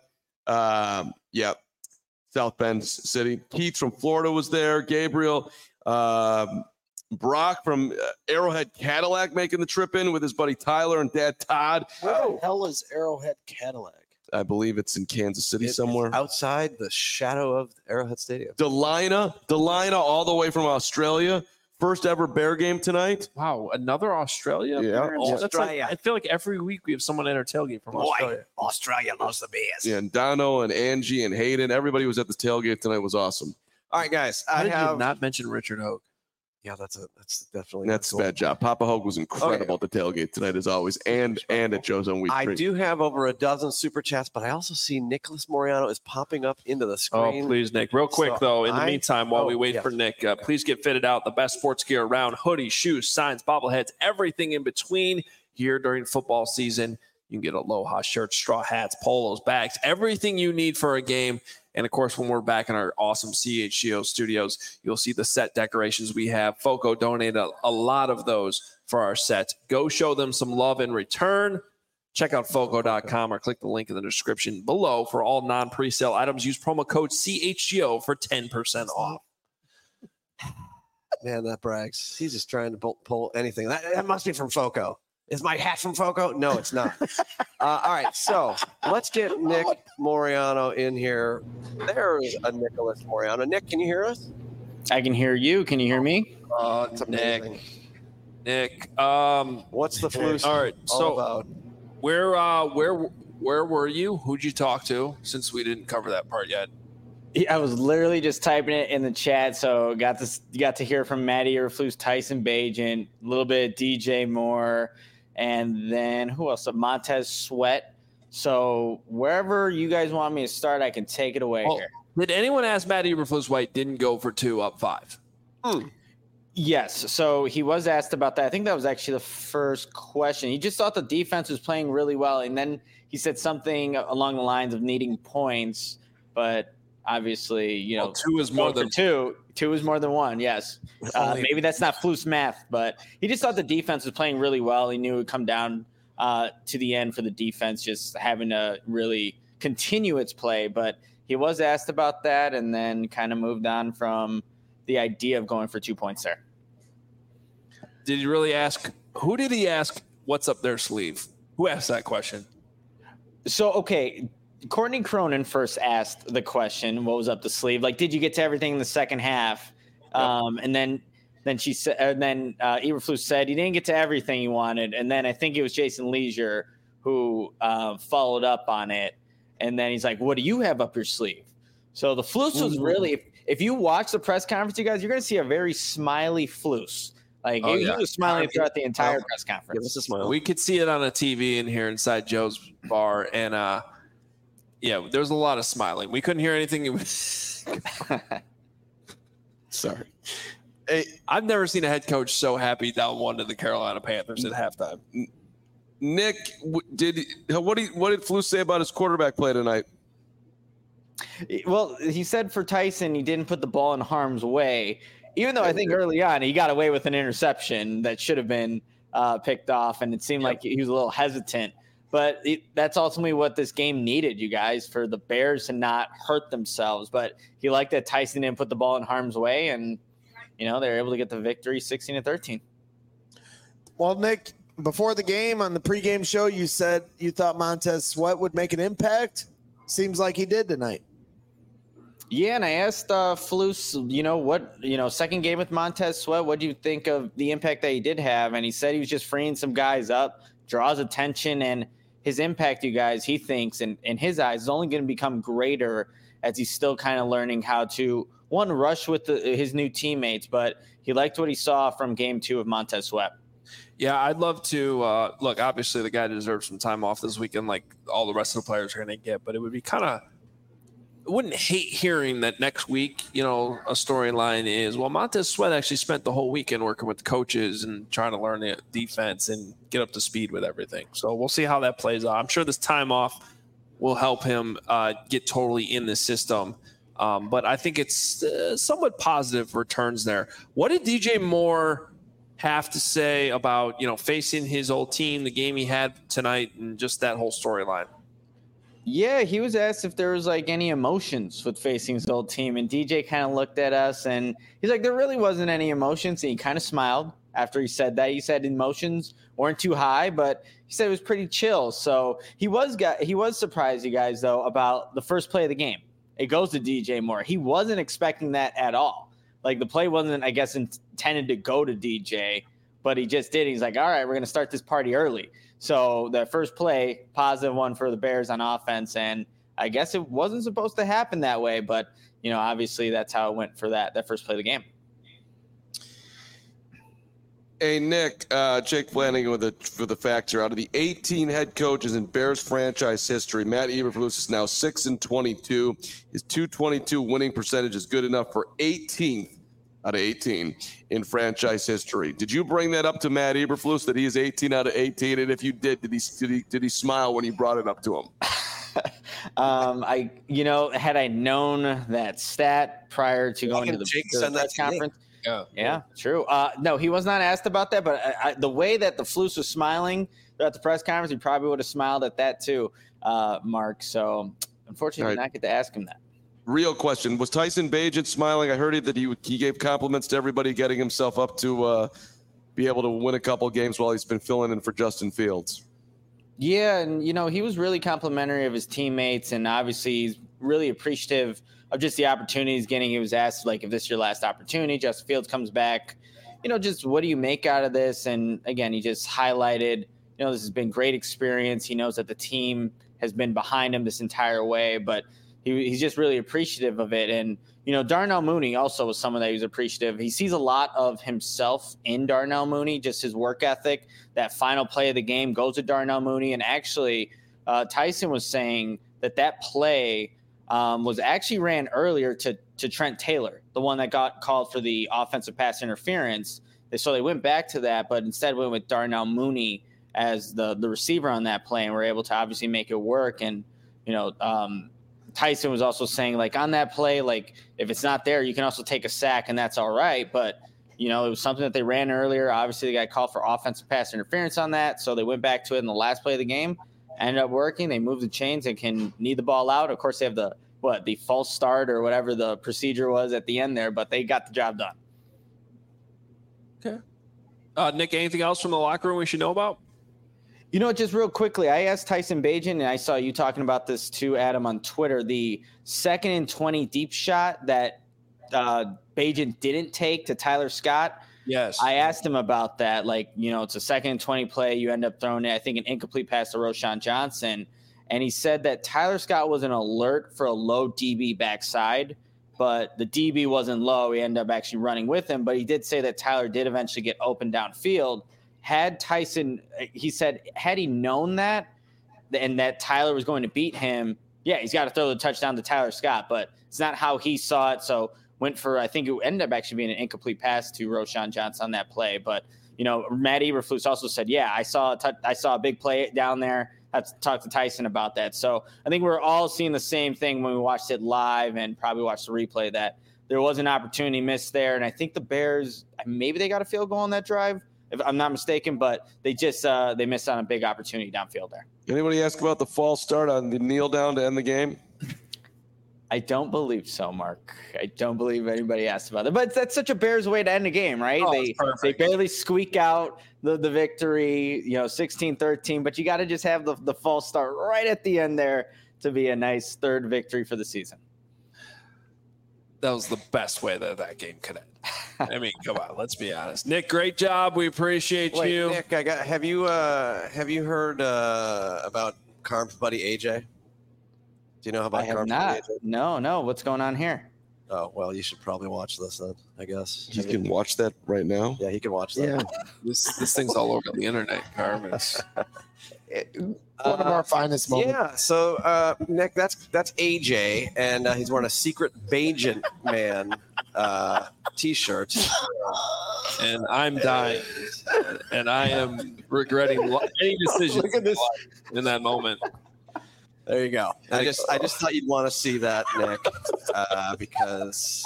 Um, yeah, South Bend City. Keith from Florida was there. Gabriel. Um, Brock from uh, Arrowhead Cadillac making the trip in with his buddy Tyler and dad Todd. Where the hell is Arrowhead Cadillac? I believe it's in Kansas City It is somewhere. outside the shadow of Arrowhead Stadium. Delina, Delina, all the way from Australia. First ever Bear game tonight. Wow, another Australia? Yeah. player? That's like- Australia. I feel like every week we have someone at our tailgate from Australia. Australia loves the Bears. Yeah, and Dono and Angie and Hayden, everybody was at the tailgate tonight. It was awesome. All right, guys. How I did have. you not mention Richard Hogue? Yeah, that's a that's definitely That's a cool. bad job. Papa Hogue was incredible at the tailgate tonight, as always, and and at Joe's on week I three. do have over a dozen super chats, but I also see Nicholas Moriano is popping up into the Oh, screen. please, Nick. Real quick, So though, in the I- meantime, while oh, we wait yes. for Nick, uh, please get fitted out. The best sports gear around: hoodies, shoes, signs, bobbleheads, everything in between here during football season. You can get Aloha shirts, straw hats, polos, bags, everything you need for a game. And of course, when we're back in our awesome C H G O studios, you'll see the set decorations we have. Foco donated a, a lot of those for our set. Go show them some love in return. Check out foco dot com or click the link in the description below for all non-presale items. Use promo code C H G O for ten percent off. Man, that brags. He's just trying to pull, pull anything. That, that must be from Foco. Is my hat from Foco? No, it's not. uh, all right, so let's get Nick Moriano in here. There's a Nicholas Moriano. Nick, can you hear us? I can hear you. Can you hear me? Oh, it's amazing. Nick. Nick, um, What's the flu all right. all So about? where, uh, where, where were you? Who'd you talk to? Since we didn't cover that part yet. I was literally just typing it in the chat, so got to got to hear from Matty Eberflus, Tyson Bagent, a little bit of D J Moore, and then who else? Montez Sweat. So wherever you guys want me to start, I can take it away Well, here. Did anyone ask Matt Eberflus White didn't go for two up five? Hmm. Yes. So he was asked about that. I think that was actually the first question. He just thought the defense was playing really well, and then he said something along the lines of needing points, but obviously, you know, well, two is more than two. Two is more than one. Yes. Uh, maybe that's not Flus math, but he just thought the defense was playing really well. He knew it would come down uh, to the end for the defense, just having to really continue its play. But he was asked about that and then kind of moved on from the idea of going for two points there. Did he really ask? Who did he ask what's up their sleeve? Who asked that question? So, okay, Courtney Cronin first asked the question, what was up the sleeve? Like, did you get to everything in the second half? Yep. Um, and then then she said, and then uh, Eberflus said he didn't get to everything he wanted. And then I think it was Jason Leisure who uh, followed up on it. And then he's like, what do you have up your sleeve? So the Flus was really, if, if you watch the press conference, you guys, you're going to see a very smiley Flus. Like, oh, he, yeah. he was smiling throughout the entire oh, press conference. Give us a smile. We could see it on a T V in here inside Joe's bar. And, uh, yeah, there was a lot of smiling. We couldn't hear anything. Sorry. Hey, I've never seen a head coach so happy down one to the Carolina Panthers at halftime. Nick, did what did what did Flus say about his quarterback play tonight? Well, he said for Tyson, he didn't put the ball in harm's way, even though I think early on he got away with an interception that should have been uh, picked off, and it seemed yep. like he was a little hesitant. But it, that's ultimately what this game needed, you guys, for the Bears to not hurt themselves. But he liked that Tyson didn't put the ball in harm's way, and, you know, they were able to get the victory sixteen to thirteen. Well, Nick, before the game on the pregame show, you said you thought Montez Sweat would make an impact. Seems like he did tonight. Yeah, and I asked uh, Flus, you know, what, you know, second game with Montez Sweat, what do you think of the impact that he did have? And he said he was just freeing some guys up, draws attention, and his impact, you guys, he thinks, in, in his eyes, is only going to become greater as he's still kind of learning how to, one, rush with the, his new teammates, but he liked what he saw from game two of Montez Sweat. Yeah, I'd love to uh, – look, obviously the guy deserves some time off this weekend like all the rest of the players are going to get, but it would be kind of – I wouldn't hate hearing that next week, you know, a storyline is, well, Montez Sweat actually spent the whole weekend working with the coaches and trying to learn the defense and get up to speed with everything. So we'll see how that plays out. I'm sure this time off will help him uh, get totally in the system. Um, but I think it's uh, somewhat positive returns there. What did D J Moore have to say about, you know, facing his old team, the game he had tonight, and just that whole storyline? Yeah, he was asked if there was like any emotions with facing his old team, and D J kind of looked at us and he's like, there really wasn't any emotions. And he kind of smiled after he said that. He said emotions weren't too high, but he said it was pretty chill. So he was got he was surprised, you guys, though, about the first play of the game. It goes to D J Moore. He wasn't expecting that at all. Like, the play wasn't, I guess, intended to go to D J, but he just did. He's like, all right, we're going to start this party early. So the first play, positive one for the Bears on offense, and I guess it wasn't supposed to happen that way, but, you know, obviously that's how it went for that, that first play of the game. Hey, Nick, uh, Jake Flanagan with the for the facts here. Out of the eighteen head coaches in Bears franchise history, Matt Eberflus is now six and twenty-two. His two twenty-two winning percentage is good enough for eighteenth out of eighteen in franchise history. Did you bring that up to Matt Eberflus that he is eighteen out of eighteen? And if you did, did he did he, did he smile when you brought it up to him? um, I, you know, had I known that stat prior to going to the, to the press conference. Yeah, yeah, true. Uh, no, he was not asked about that, but I, I, the way that the Flus was smiling throughout the press conference, he probably would have smiled at that too, uh, Mark. So unfortunately, right. did not get to ask him that. Real question. Was Tyson Bagent smiling? I heard that he he gave compliments to everybody, getting himself up to uh, be able to win a couple games while he's been filling in for Justin Fields. Yeah, and, you know, he was really complimentary of his teammates, and obviously he's really appreciative of just the opportunities getting. He was asked, like, if this is your last opportunity, Justin Fields comes back, you know, just what do you make out of this? And, again, he just highlighted, you know, this has been great experience. He knows that the team has been behind him this entire way, but he, he's just really appreciative of it. And, you know, Darnell Mooney also was someone that he was appreciative. He sees a lot of himself in Darnell Mooney, just his work ethic. That final play of the game goes to Darnell Mooney. And actually, uh, Tyson was saying that that play um, was actually ran earlier to, to Trent Taylor, the one that got called for the offensive pass interference. So they went back to that, but instead went with Darnell Mooney as the, the receiver on that play, and were able to obviously make it work. And, you know, um, Tyson was also saying, like, on that play, like, if it's not there, you can also take a sack, and that's all right. But, you know, it was something that they ran earlier. Obviously, they got called for offensive pass interference on that, so they went back to it in the last play of the game. Ended up working. They moved the chains and can knee the ball out. Of course, they have the, what, the false start or whatever the procedure was at the end there, but they got the job done. Okay. Uh, Nick, anything else from the locker room we should know about? You know, just real quickly, I asked Tyson Bagent, and I saw you talking about this too, Adam, on Twitter, the second and twenty deep shot that uh, Bagent didn't take to Tyler Scott. Yes. I asked him about that. Like, you know, it's a second and twenty play. You end up throwing it, I think, an incomplete pass to Roschon Johnson. And he said that Tyler Scott was an alert for a low D B backside, but the D B wasn't low. He ended up actually running with him. But he did say that Tyler did eventually get open downfield. Had Tyson, he said, had he known that and that Tyler was going to beat him, yeah, he's got to throw the touchdown to Tyler Scott, but it's not how he saw it. So went for, I think it ended up actually being an incomplete pass to Roschon Johnson on that play. But, you know, Matt Eberflus also said, yeah, I saw a t- I saw a big play down there. I had to talk to Tyson about that. So I think we're all seeing the same thing when we watched it live and probably watched the replay, that there was an opportunity missed there. And I think the Bears, maybe they got a field goal on that drive, if I'm not mistaken, but they just uh, they missed on a big opportunity downfield there. Anybody ask about the false start on the kneel down to end the game? I don't believe so, Mark. I don't believe anybody asked about it. But that's such a Bears way to end a game, right? Oh, they they barely squeak out the, the victory, you know, sixteen thirteen, but you got to just have the, the false start right at the end there to be a nice third victory for the season. That was the best way that that game could end. I mean, come on, let's be honest. Nick, great job. We appreciate Wait, you. Nick, I got. Have you uh, have you heard uh, about Carm's buddy A J? Do you know about I have Carm's not. buddy A J? No, no. What's going on here? Oh well, you should probably watch this then. I guess You can watch that right now. Yeah, he can watch that. Yeah. This this thing's all over the internet, Carm. It's- One of our finest moments. Yeah. So uh, Nick, that's that's A J, and uh, he's wearing a secret Bagent man uh, T-shirt. and I'm dying, and I am regretting lo- any decision Look at this. in that moment. There you go. I just I just thought you'd want to see that, Nick, uh, because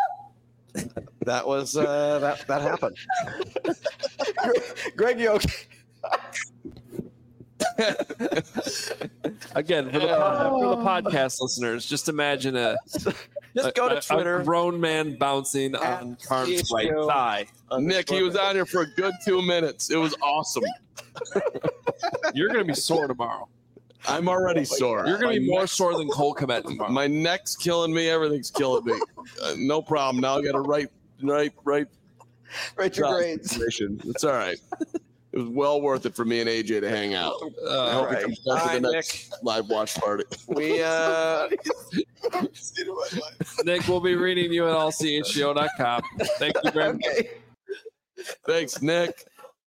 that was uh, that that happened. Greg, you okay? Again, for the, pod, for the podcast listeners, just imagine a Just go a- to a- Twitter. a grown man bouncing on Carm's right H B O. thigh. Nick, he was out here for a good two minutes. It was awesome. You're going to be sore tomorrow. I'm already sore. You're going to My be more neck- sore than Cole Kmet tomorrow. My neck's killing me. Everything's killing me. Uh, no problem. Now I got to write, write, write. Write your grades. It's all right. It was well worth it for me and A J to hang out. I Uh, hope right. he comes back All to the right, next live watch party. We uh, Nick, we'll be reading you at all c h g o dot com. Thank you very much. Thanks, Nick.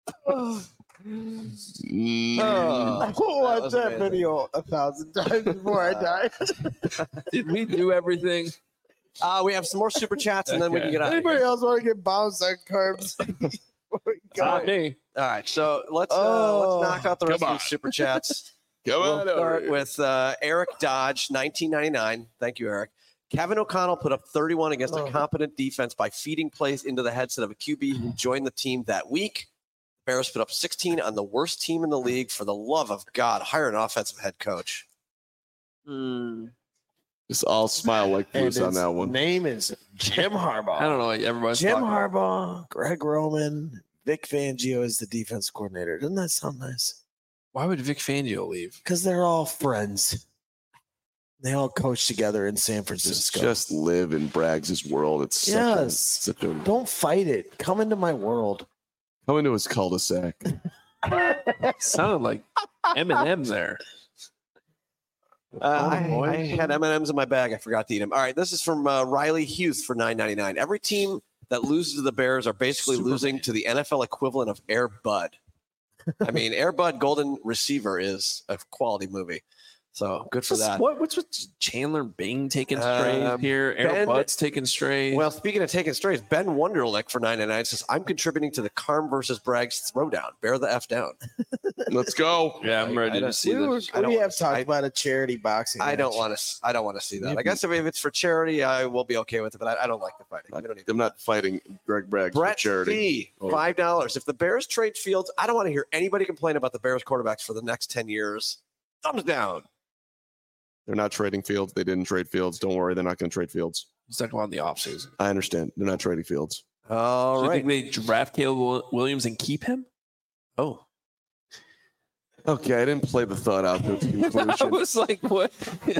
Mm. Oh. I will watch was that, amazing. video a thousand times before I die. Did we do everything? uh, we have some more super chats, and then we can get out. Of Anybody here. else want to get bounced on carbs? Not me. All right, so let's uh, Oh. let's knock out the rest Come of on. the super chats. Come We'll on over start here. with uh, Eric Dodge, nineteen ninety-nine. Thank you, Eric. Kevin O'Connell put up thirty-one against Oh. a competent defense by feeding plays into the headset of a Q B who joined the team that week. Bears put up sixteen on the worst team in the league. For the love of God, hire an offensive head coach. Just all smile like And Bruce on his that one. name is Jim Harbaugh. I don't know what everybody's Jim talking about. Harbaugh, Greg Roman, Vic Fangio is the defense coordinator. Doesn't that sound nice? Why would Vic Fangio leave? Because they're all friends. They all coach together in San Just, Francisco. just live in Braggs' world. It's such a, Yes. such a Don't fight it. Come into my world. come into his cul-de-sac. Sounded like Eminem there. Uh, I, I had M and M's in my bag. I forgot to eat them. All right, this is from uh, Riley Hughes for nine ninety-nine. Every team that loses to the Bears are basically losing to the N F L equivalent of Air Bud. I mean, Air Bud Golden Receiver is a quality movie. So good for What's, that. what, what's with Chandler Bing taking strays Um, here? Aaron Ben- Butts taking strays. Well, speaking of taking strays, Ben Wonderlick for nine ninety-nine says, I'm contributing to the Carm versus Braggs throwdown. Bear the F down. Let's go. yeah, I'm I- ready I to don't- see We, were, this. I don't we wanna have s- talked I- about a charity boxing. I don't match. want to. I don't want to see that. I guess if it's for charity, I will be okay with it. But I, I don't like the fighting. We don't need I'm not fighting Greg Bragg for Brett charity. C, Or- five dollars. If the Bears trade Fields, I don't want to hear anybody complain about the Bears quarterbacks for the next ten years. Thumbs down. They're not trading Fields. They didn't trade Fields. Don't worry. They're not going to trade Fields. He's talking about in the offseason. I understand. They're not trading Fields. All Do you right. think they draft Caleb Williams and keep him? Oh, Okay, I didn't play the thought out to its I conclusion. was like, what?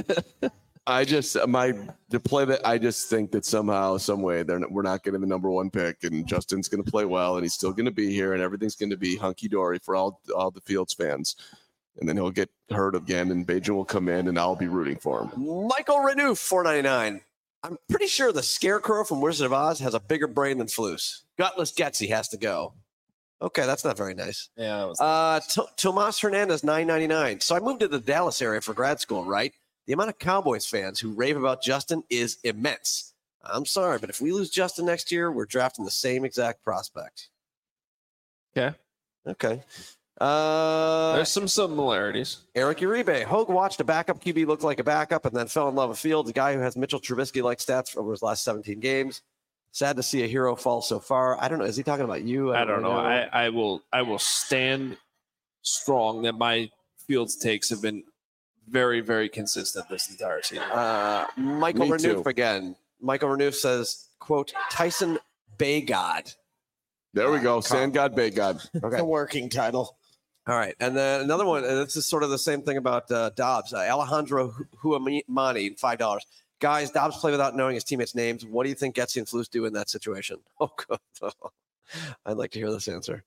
I just my to play that. I just think that somehow, some way, they're not, we're not getting the number one pick, and Justin's going to play well, and he's still going to be here, and everything's going to be hunky dory for all all the Fields fans. And then he'll get hurt again, and Bajan will come in, and I'll be rooting for him. Michael Renouf, four ninety-nine. I'm pretty sure the Scarecrow from Wizard of Oz has a bigger brain than Flus. Gutless Getsy has to go. Okay, that's not very nice. Yeah, it was, Uh, T- Tomas Hernandez, nine ninety-nine. So I moved to the Dallas area for grad school, right? The amount of Cowboys fans who rave about Justin is immense. I'm sorry, but if we lose Justin next year, we're drafting the same exact prospect. Okay. Okay. Uh, there's some similarities. Eric Uribe. Hogue watched a backup Q B look like a backup and then fell in love with Fields, a guy who has Mitchell Trubisky-like stats over his last seventeen games. Sad to see a hero fall so far. I don't know. Is he talking about you? I don't know. I, I will I will stand strong that my Fields takes have been very, very consistent this entire season. Uh, Michael Me Renouf too. again. Michael Renouf says, quote, Tyson Baygod. There we go. Sand God, Bay God. Okay. The working title. All right. And then another one, and this is sort of the same thing about uh, Dobbs. Uh, Alejandro Huamani, five dollars. Guys, Dobbs play without knowing his teammates' names. What do you think Getsy and Flus do in that situation? Oh, God. I'd like to hear this answer.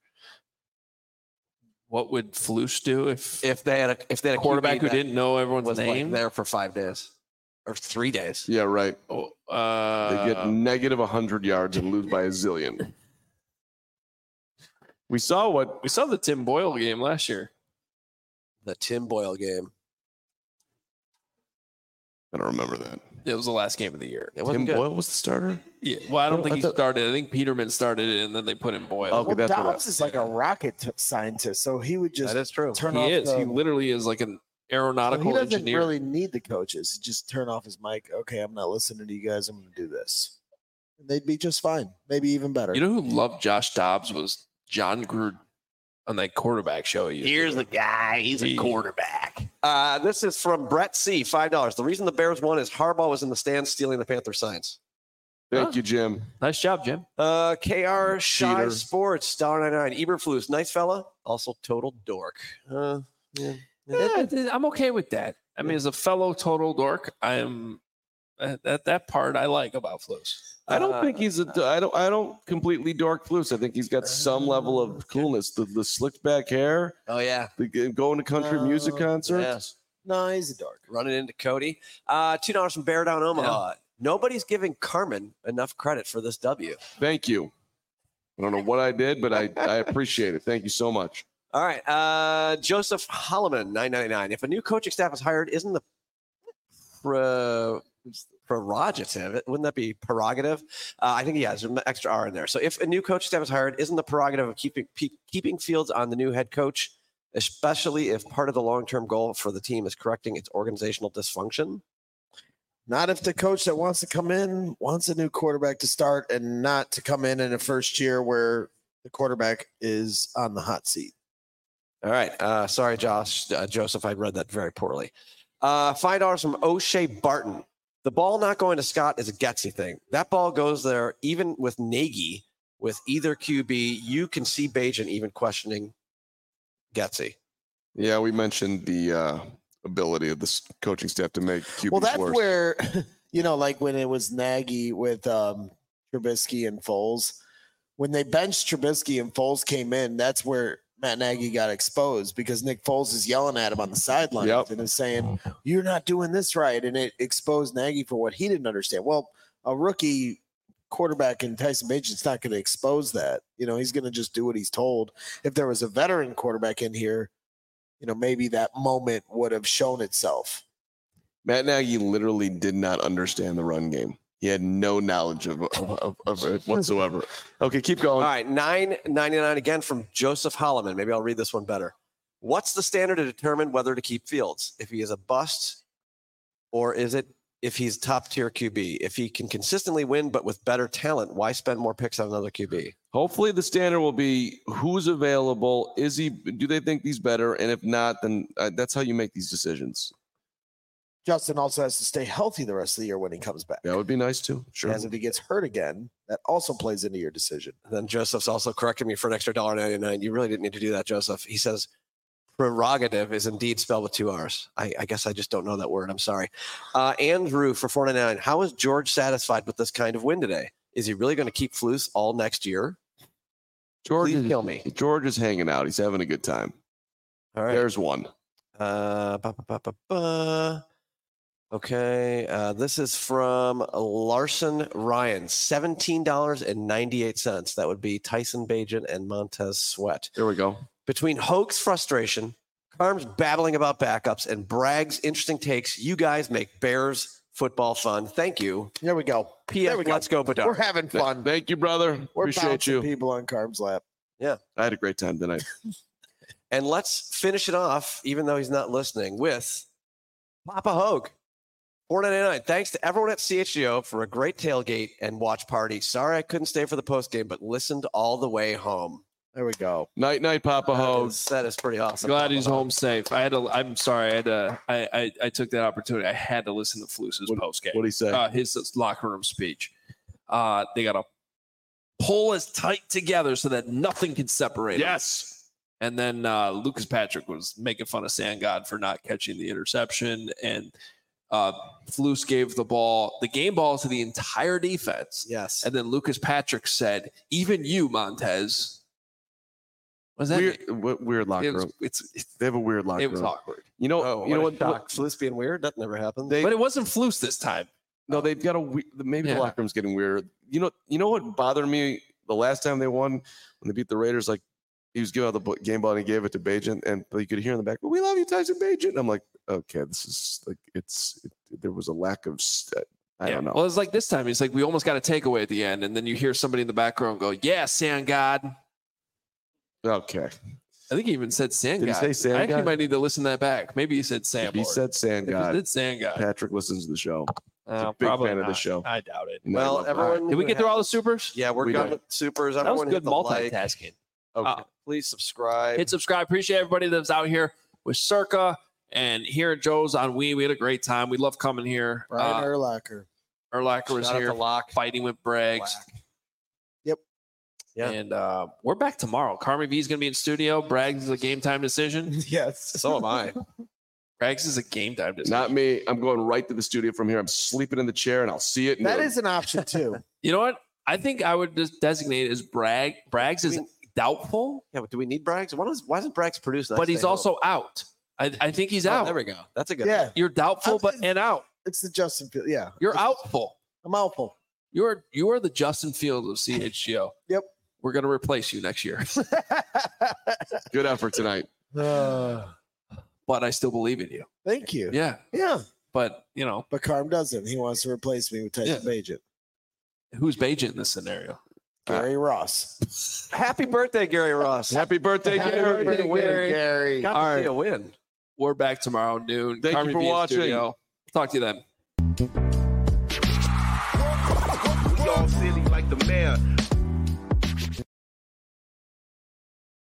What would Flus do if, If they had a if they had a quarterback Q B who that didn't know everyone's was name? like there for five days or three days? Yeah, right. Oh, They uh, get negative one hundred yards and lose by a zillion. We saw what we saw the Tim Boyle game last year. The Tim Boyle game. I don't remember that. It was the last game of the year. It Tim wasn't good. Boyle was the starter. Yeah. Well, I don't Oh, think I he thought- started. I think Peterman started it, and then they put in Boyle. Okay, Well, that's what I- Dobbs is like a rocket t- scientist, so he would just That is true. turn he off is. the. He literally is like an so aeronautical he doesn't engineer. really need the coaches. He just turn off his mic. Okay, I'm not listening to you guys. I'm going to do this. And they'd be just fine. Maybe even better. You know who loved Josh Dobbs was John Gruden on that quarterback show. He used to Here's do. the guy. He's a He- quarterback. Uh, this is from Brett C. Five dollars. The reason the Bears won is Harbaugh was in the stands stealing the Panther signs. Thank Huh? you, Jim. Nice job, Jim. Uh, K R Shy Cheater. Sports, one ninety-nine. Eberflus, nice fella. Also total dork. Uh, yeah. Yeah, I'm okay with that. I mean, as a fellow total dork, I am uh, that that part I like about Flus. I don't Uh, think he's a. I don't. I don't completely dork Flus. I think he's got some level of coolness. The the slicked back hair, Oh, yeah. the going to country music Uh, concerts. Yes. No, he's a dark. Running into Cody. Uh, two dollars from Bear Down Omaha. Nobody's giving Carmen enough credit for this W. Thank you. I don't know what I did, but I, I appreciate it. Thank you so much. All right. Uh, Joseph Holloman, nine ninety-nine. If a new coaching staff is hired, isn't the pre- prerogative, wouldn't that be prerogative? Uh, I think, yeah, there's an extra R in there. So if a new coaching staff is hired, isn't the prerogative of keeping pe- keeping Fields on the new head coach, especially if part of the long-term goal for the team is correcting its organizational dysfunction? Not if the coach that wants to come in wants a new quarterback to start and not to come in in a first year where the quarterback is on the hot seat. All right. Uh, sorry, Josh, uh, Joseph. I read that very poorly. Uh, five dollars from O'Shea Barton. The ball not going to Scott is a Getsy thing. That ball goes there, even with Nagy, with either Q B. You can see Bajan even questioning Getsy. Yeah, we mentioned the uh, ability of this coaching staff to make Q Bs Well, that's worse. where, you know, like when it was Nagy with um, Trubisky and Foles, when they benched Trubisky and Foles came in, that's where Matt Nagy got exposed because Nick Foles is yelling at him on the sidelines Yep. and is saying, "You're not doing this right," and it exposed Nagy for what he didn't understand. Well, a rookie quarterback in Tyson Bajan's not going to expose that. You know, he's going to just do what he's told. If there was a veteran quarterback in here, you know, maybe that moment would have shown itself. Matt Nagy literally did not understand the run game. He had no knowledge of, of, of, of it whatsoever. Okay, keep going. All right, nine ninety-nine again from Joseph Holloman. Maybe I'll read this one better. What's the standard to determine whether to keep Fields? If he is a bust, or is it if he's top tier Q B? If he can consistently win but with better talent, why spend more picks on another Q B? Hopefully the standard will be who's available. Is he? Do they think he's better? And if not, then uh, that's how you make these decisions. Justin also has to stay healthy the rest of the year when he comes back. That would be nice too. Sure. As if he gets hurt again, that also plays into your decision. Then Joseph's also corrected me for an extra one dollar ninety-nine. You really didn't need to do that, Joseph. He says prerogative is indeed spelled with two R's. I, I guess I just don't know that word. I'm sorry. Uh, Andrew for four ninety-nine. How is George satisfied with this kind of win today? Is he really going to keep Flus all next year? George Please is, kill me. George is hanging out. He's having a good time. All right. There's one. Uh, ba, ba, ba, ba, ba. Okay. Uh, this is from Larson Ryan. seventeen dollars and ninety-eight cents. That would be Tyson Bagent and Montez Sweat. There we go. Between Hoke's frustration, Carm's babbling about backups, and Bragg's interesting takes, you guys make Bears football fun. Thank you. There we go. P F. There we go. Let's go, Bedard. We're having fun. Thank you, brother. We're Appreciate bouncing you. people on Carb's lap. Yeah. I had a great time tonight. And let's finish it off, even though he's not listening, with Papa Hogue. four ninety-nine. Thanks to everyone at C H G O for a great tailgate and watch party. Sorry I couldn't stay for the post game, but listened all the way home. There we go. Night, night, Papa That Hogue. is, that is pretty awesome. Glad Papa he's Hogue. home safe. I had to. I'm sorry. I had to. I I, I took that opportunity. I had to listen to Flus's What- post game. What'd he say? Uh, his locker room speech. Uh, they got to pull us tight together so that nothing can separate. us. yes. And then uh, Lucas Patrick was making fun of Sand God for not catching the interception, and uh, Flus gave the ball, the game ball, to the entire defense. Yes. And then Lucas Patrick said, "Even you, Montez." What does that Weird, mean? w- weird locker It was, room. it's, it, They have a weird locker it was room. awkward. You know, Oh, you know what? what? Shock. Flus being weird? That never happened. They, But it wasn't Flus this time. no, they've got a we- maybe Yeah. the locker room's getting weird. You know, you know what bothered me the last time they won when they beat the Raiders? Like he was giving out the bo- game ball and he gave it to Bagent, and you could hear in the back, "Well, we love you, Tyson Bagent." I'm like, okay, this is like it's it, there was a lack of. St- I Yeah. don't know. Well, it's like this time. It's like we almost got a takeaway at the end, and then you hear somebody in the background go, "Yeah, Sand God." Okay, I think he even said Sand Did he God. say Sand I actually God? might need to listen to that back. Maybe he said Sand. he said Sand If he God. did Sand God. Patrick listens to the show. Uh, a big probably fan of the not. show. I doubt it. You know, I well, love that. everyone. Did we who get through has- all the supers? Yeah, we're We done did. with supers. That was Everyone hit good the like. multitasking. Okay. Uh, Please subscribe. hit subscribe. Appreciate everybody that's out here with Circa and here at Joe's on We. We had a great time. We love coming here. Brian Uh, Urlacher. Urlacher was Shout out here to Locke. fighting with Braggs. Black. Yep. Yeah. And uh, we're back tomorrow. Carmi V is going to be in studio. Braggs is a game time decision. Yes. So am I. Braggs is a game time decision. Not me. I'm going right to the studio from here. I'm sleeping in the chair, and I'll see it. That noon. is an option too. You know what? I think I would just designate as Bragg. Braggs is I mean- doubtful, Yeah, but do we need Braggs? Why, does, why doesn't Braggs produce? but he's also out. I, I think he's Oh, out. there we go. That's a good. Yeah. You're doubtful, but I'm- and out. It's the Justin Field. Yeah. You're outful. I'm outful. You're you are the Justin Fields of C H G O. Yep. We're gonna replace you next year, Good effort tonight. Uh, but I still believe in you. thank you. Yeah, Yeah. but you know But Carm doesn't. He wants to replace me with Tyson Bagent. who's Bagent in this scenario? Gary Ross. Happy birthday, Gary Ross. Happy birthday, Happy Gary. birthday, Gary. Gary. Got All to see right. a win. We're back tomorrow noon. Thank you Carmi for V in watching. studio. Talk to you then. We all silly like the mayor.